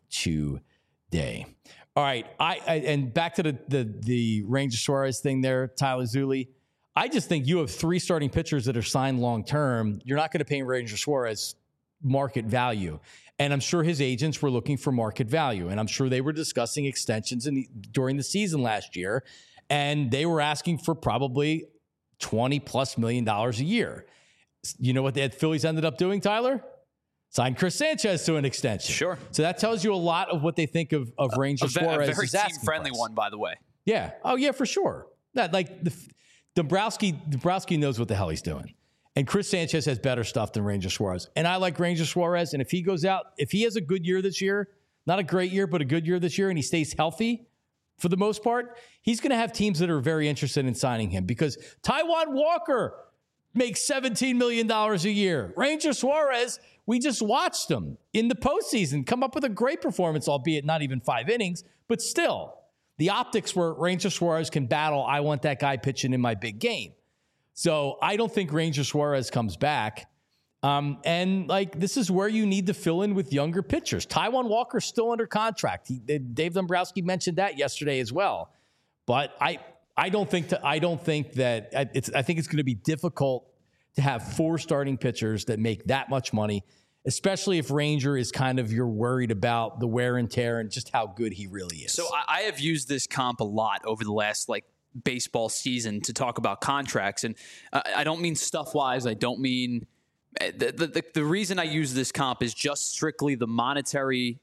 today. All right, I, I and back to the, the the Ranger Suarez thing there, Tyler Zulli. I just think you have three starting pitchers that are signed long-term. You're not going to pay Ranger Suarez market value. And I'm sure his agents were looking for market value. And I'm sure they were discussing extensions in the, during the season last year. And they were asking for probably twenty plus million dollars a year. You know what the Phillies ended up doing, Tyler? Signed Chris Sanchez to an extension. Sure. So that tells you a lot of what they think of, of Ranger a, Suarez. A very team-friendly one, by the way. Yeah. Oh, yeah, for sure. That, like, the, Dombrowski, Dombrowski knows what the hell he's doing. And Chris Sanchez has better stuff than Ranger Suarez. And I like Ranger Suarez. And if he goes out, if he has a good year this year, not a great year, but a good year this year, and he stays healthy for the most part, he's going to have teams that are very interested in signing him because Taijuan Walker makes seventeen million dollars a year. Ranger Suarez, we just watched him in the postseason come up with a great performance, albeit not even five innings, but still. The optics were Ranger Suarez can battle, I want that guy pitching in my big game. So I don't think Ranger Suarez comes back. Um, and, like, this is where you need to fill in with younger pitchers. Taijuan Walker's still under contract. He, Dave Dombrowski mentioned that yesterday as well. But I I don't think to, I don't think that it's I think it's going to be difficult to have four starting pitchers that make that much money, especially if Ranger is kind of you're worried about the wear and tear and just how good he really is. So I, I have used this comp a lot over the last, like, baseball season to talk about contracts. And uh, I don't mean stuff-wise. I don't mean the, the, the reason I use this comp is just strictly the monetary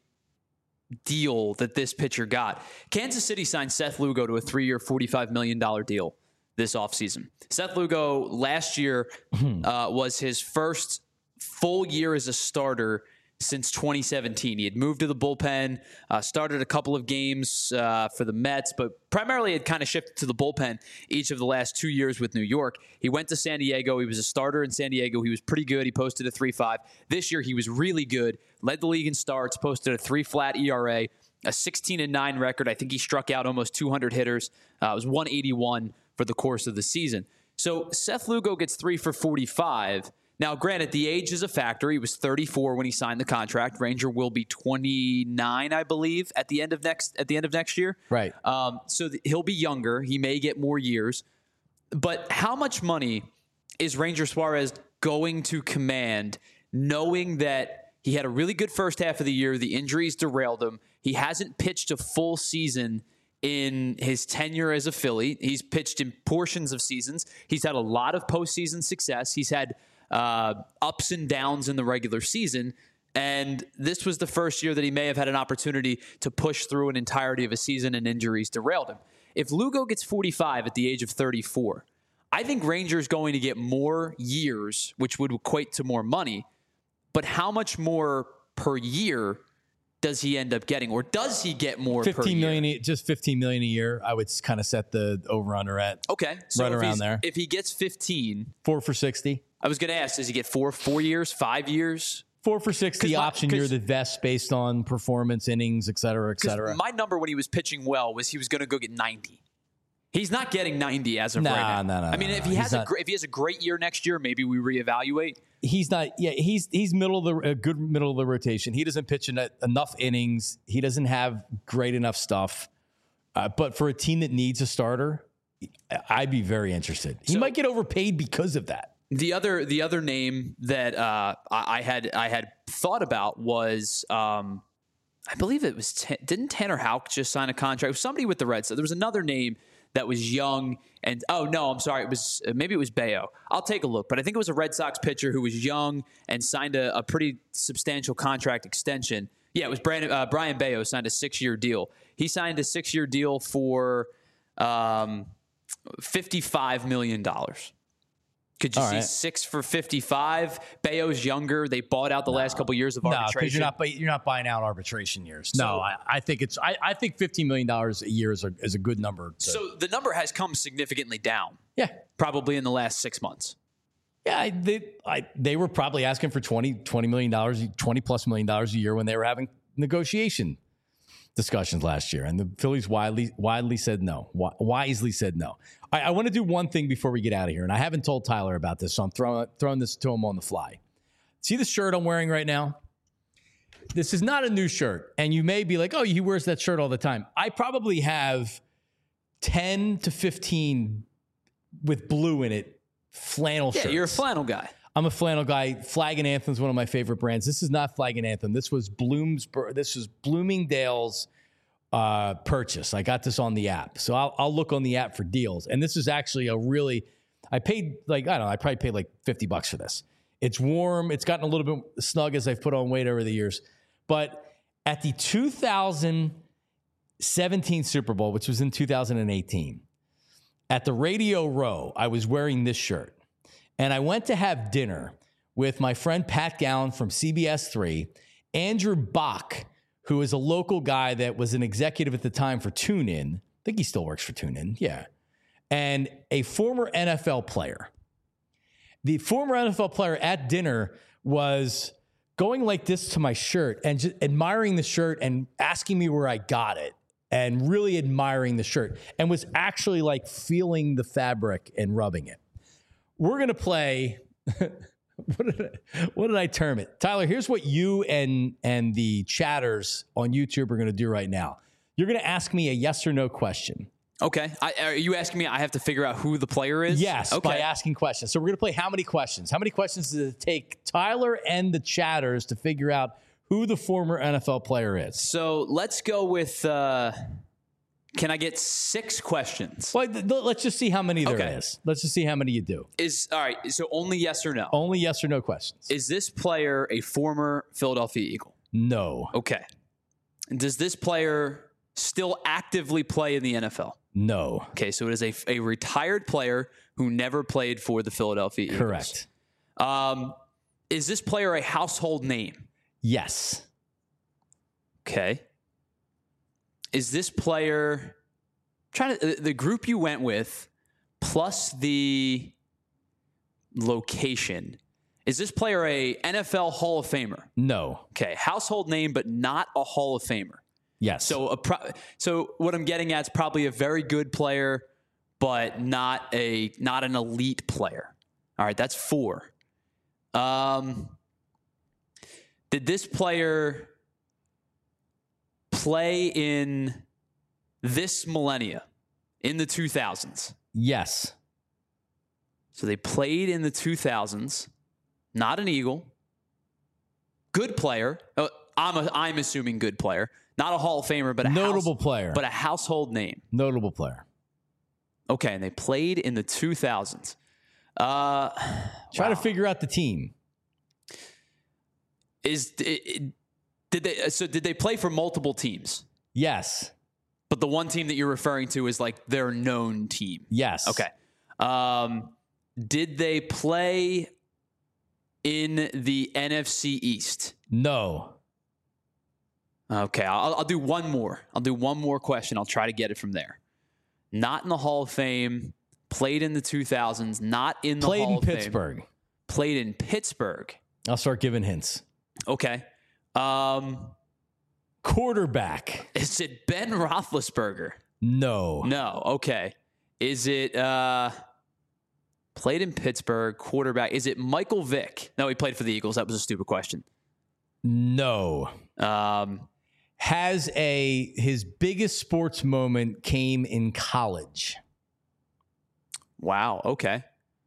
deal that this pitcher got. Kansas City signed Seth Lugo to a three-year, forty-five million dollars deal this offseason. Seth Lugo last year uh, was his first full year as a starter since twenty seventeen. He had moved to the bullpen, uh, started a couple of games uh, for the Mets, but primarily had kind of shifted to the bullpen each of the last two years with New York. He went to San Diego. He was a starter in San Diego. He was pretty good. He posted a three point five. This year, he was really good, led the league in starts, posted a three flat E R A, a sixteen and nine record. I think he struck out almost two hundred hitters. Uh, it was one eighty-one for the course of the season. So Seth Lugo gets three for forty-five. Now, granted, the age is a factor. He was thirty-four when he signed the contract. Ranger will be twenty-nine, I believe, at the end of next at the end of next year. Right. Um, so th- he'll be younger. He may get more years. But how much money is Ranger Suarez going to command, knowing that he had a really good first half of the year, the injuries derailed him, he hasn't pitched a full season in his tenure as a Philly. He's pitched in portions of seasons. He's had a lot of postseason success. He's had uh, ups and downs in the regular season. And this was the first year that he may have had an opportunity to push through an entirety of a season, and injuries derailed him. If Lugo gets forty-five at the age of thirty-four, I think Ranger's going to get more years, which would equate to more money. But how much more per year does he end up getting, or does he get more per year? fifteen million, just fifteen million a year. I would kind of set the over under at okay, so right if around he's, there. If he gets fifteen, four for sixty. I was going to ask, does he get four, four years, five years? Four for sixty my- option year that vests based on performance, innings, et cetera, et cetera. My number when he was pitching well was he was going to go get ninety. He's not getting ninety as of Nah, right now. nah, nah, I mean, nah, if nah. he He's has a not- gr- if he has a great year next year, maybe we reevaluate. He's not. Yeah, he's he's middle of the a good middle of the rotation. He doesn't pitch en- enough innings. He doesn't have great enough stuff. Uh, but for a team that needs a starter, I'd be very interested. He So- might get overpaid because of that. The other the other name that uh, I, I had I had thought about was um, I believe it was T- didn't Tanner Houck just sign a contract with somebody with the Reds? So there was another name that was young and oh no, I'm sorry, it was maybe it was Bayo. I'll take a look, but I think it was a Red Sox pitcher who was young and signed a, a pretty substantial contract extension. Yeah, it was Brandon, uh, Brian Bayo signed a six year deal. He signed a six year deal for um, fifty-five million dollars. Could you All see right. six for fifty-five? Bayo's younger. They bought out the last couple years of No, arbitration. because you're not buy- you're not buying out arbitration years. No, I, I think it's I, I think fifteen million dollars a year is a, is a good number. To, So the number has come significantly down, yeah, probably in the last six months. yeah, I, they I, they were probably asking for twenty, twenty million dollars, twenty plus million dollars a year when they were having negotiation discussions last year, and the Phillies widely widely said no, wi- wisely said no. I, I want to do one thing before we get out of here, and I haven't told Tyler about this, so I'm throwing throwing this to him on the fly. See the shirt I'm wearing right now? This is not a new shirt, and you may be like, "Oh, he wears that shirt all the time." I probably have ten to fifteen with blue in it flannel Yeah, shirts. you're a flannel guy. I'm a flannel guy. Flag and Anthem is one of my favorite brands. This is not Flag and Anthem. This was Bloom's. This was Bloomingdale's uh, purchase. I got this on the app, so I'll, I'll look on the app for deals. And this is actually a really. I paid like I don't know. I probably paid like fifty bucks for this. It's warm. It's gotten a little bit snug as I've put on weight over the years. But at the two thousand seventeen Super Bowl, which was in two thousand eighteen, at the Radio Row, I was wearing this shirt. And I went to have dinner with my friend Pat Gallen from C B S three, Andrew Bach, who is a local guy that was an executive at the time for TuneIn. I think he still works for TuneIn, yeah. And a former N F L player. The former N F L player at dinner was going like this to my shirt and just admiring the shirt and asking me where I got it and really admiring the shirt and was actually like feeling the fabric and rubbing it. We're going to play, what, did I, what did I term it? Tyler, here's what you and, and the chatters on YouTube are going to do right now. You're going to ask me a yes or no question. Okay. I, are you asking me I have to figure out who the player is? Yes, okay. by asking questions. So we're going to play how many questions? How many questions does it take Tyler and the chatters to figure out who the former N F L player is? So let's go with, uh, can I get six questions? Well, th- th- let's just see how many there is. Okay. Let's just see how many you do. Is all right. So only yes or no. Only yes or no questions. Is this player a former Philadelphia Eagle? No. Okay. And does this player still actively play in the N F L? No. Okay, so it is a, a retired player who never played for the Philadelphia Eagles. Correct. Um, is this player a household name? Yes. Okay. Is this player trying to the group you went with plus the location? Is this player a N F L Hall of Famer? No. Okay, household name, but not a Hall of Famer. Yes. So, a pro- so what I'm getting at is probably a very good player, but not a not an elite player. All right, that's four. Um, did this player play in this millennia, in the two thousands? Yes. So they played in the two thousands. Not an Eagle. Good player. Uh, I'm a, I'm assuming good player. Not a Hall of Famer, but a notable house, player. But a household name. Notable player. Okay, and they played in the two thousands. Uh, Try wow. to figure out the team. Is it, it, did they? So did they play for multiple teams? Yes. But the one team that you're referring to is like their known team. Yes. Okay. Um, did they play in the N F C East? No. Okay, I'll, I'll do one more. I'll do one more question. I'll try to get it from there. Not in the Hall of Fame. Played in the two thousands. Not in the Played Hall in of Fame. Pittsburgh. Played in Pittsburgh. I'll start giving hints. Okay. Um, Quarterback. is it Ben Roethlisberger? No. No. Okay. Is it uh, played in Pittsburgh? Quarterback. Is it Michael Vick? No, he played for the Eagles. That was a stupid question. No. Um, Has a his biggest sports moment came in college. wow. Okay.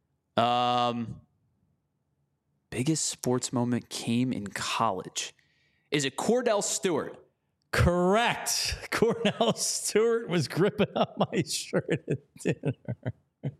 Um, biggest sports moment came in college. Is it Cordell Stewart? Correct. Cordell Stewart was gripping up my shirt at dinner.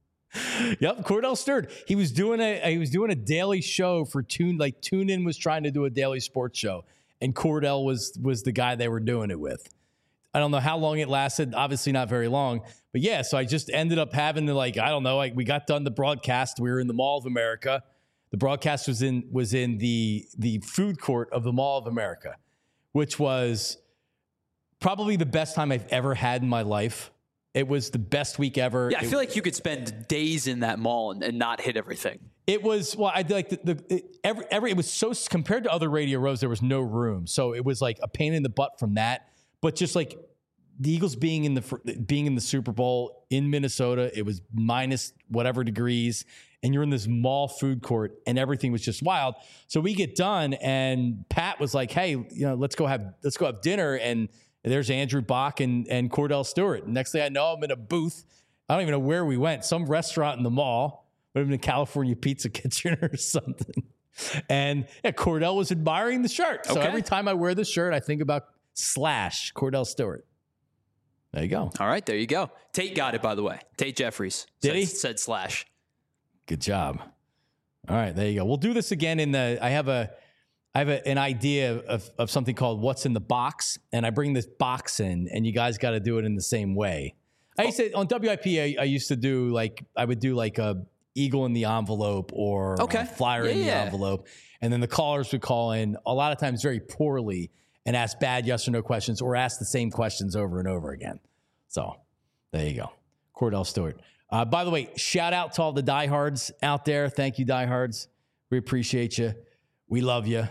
Yep, Cordell Stewart. He was doing a he was doing a daily show for Tune like TuneIn was trying to do a daily sports show, and Cordell was was the guy they were doing it with. I don't know how long it lasted. Obviously not very long, but yeah. So I just ended up having to like I don't know. Like we got done the broadcast. We were in the Mall of America. The broadcast was in was in the the food court of the Mall of America, which was probably the best time I've ever had in my life. It was the best week ever. Yeah, I it, feel like you could spend days in that mall and, and not hit everything. It was well, I like the, the it, every every it was so compared to other Radio Rows, there was no room, so it was like a pain in the butt from that. But just like the Eagles being in the being in the Super Bowl in Minnesota, it was minus whatever degrees, and you're in this mall food court, and everything was just wild. So we get done, and Pat was like, "Hey, you know, let's go have let's go have dinner." And there's Andrew Bach and, and Cordell Stewart. Next thing I know, I'm in a booth. I don't even know where we went. Some restaurant in the mall. Would have been California Pizza Kitchen or something. And yeah, Cordell was admiring the shirt. So okay. every time I wear the shirt, I think about slash Cordell Stewart. There you go. All right, there you go. Tate got it, by the way. Tate Jeffries. Did said, he? Said slash. Good job. All right, there you go. We'll do this again in the, I have a, I have a, an idea of, of something called What's in the Box, and I bring this box in, and you guys got to do it in the same way. I used to, on W I P, I, I used to do like, I would do like a eagle in the envelope or okay. a flyer yeah, in the yeah. envelope, and then the callers would call in, a lot of times very poorly, and ask bad yes or no questions, or ask the same questions over and over again. So there you go. Cordell Stewart. Uh, by the way, shout out to all the diehards out there. Thank you, diehards. We appreciate you. We love you.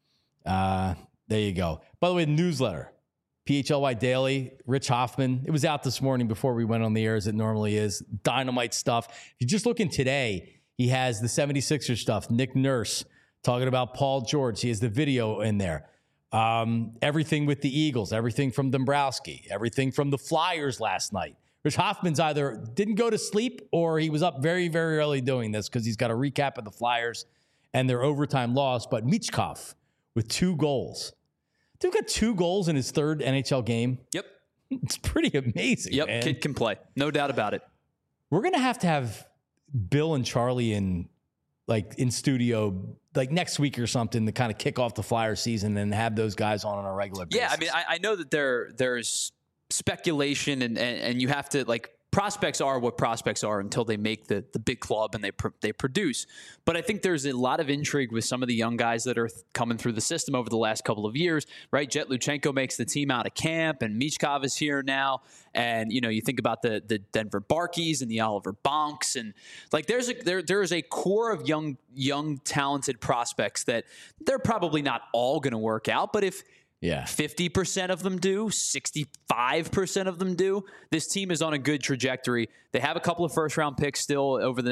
Uh, there you go. By the way, the newsletter, P H L Y Daily, Rich Hoffman. It was out this morning before we went on the air, as it normally is. Dynamite stuff. If you're just looking today, he has the seventy-sixers stuff. Nick Nurse talking about Paul George. He has the video in there. Um, everything with the Eagles, everything from Dombrowski, everything from the Flyers last night. Rich Hoffman's either didn't go to sleep or he was up very, very early doing this because he's got a recap of the Flyers and their overtime loss. But Michkov with two goals. Dude got two goals in his third N H L game. Yep. It's pretty amazing, Yep, man. kid can play. No doubt about it. We're going to have to have Bill and Charlie in, like, in studio, like, next week or something to kind of kick off the Flyer season and have those guys on on a regular basis. Yeah, I mean, I, I know that there there's speculation and, and, and you have to, like, prospects are what prospects are until they make the, the big club and they pr- they produce. But I think there's a lot of intrigue with some of the young guys that are th- coming through the system over the last couple of years, right? Jet Luchenko makes the team out of camp, and Michkov is here now. And, you know, you think about the the Denver Barkeys and the Oliver Bonks, and like there's a there there is a core of young young talented prospects that they're probably not all going to work out, but if Yeah. fifty percent of them do, sixty-five percent of them do, this team is on a good trajectory. They have a couple of first round picks still over the next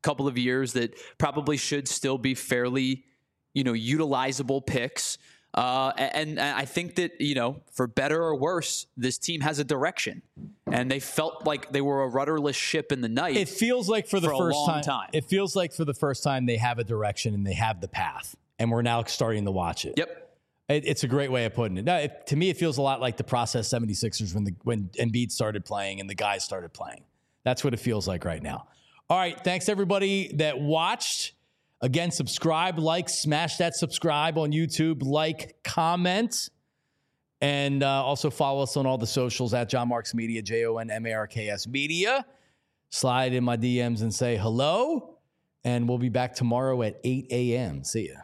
couple of years that probably should still be fairly, you know, utilizable picks. Uh, and, and I think that, you know, for better or worse, this team has a direction, and they felt like they were a rudderless ship in the night. It feels like for the for first a long time, time. It feels like for the first time they have a direction and they have the path, and we're now starting to watch it. Yep. It, it's a great way of putting it. Now, it. To me, it feels a lot like the process seventy-sixers when the when Embiid started playing and the guys started playing. That's what it feels like right now. All right. Thanks, everybody that watched. Again, subscribe, like, smash that subscribe on YouTube, like, comment, and uh, also follow us on all the socials at John Marks Media, J O N M A R K S Media. Slide in my D Ms and say hello, and we'll be back tomorrow at eight a.m. See ya.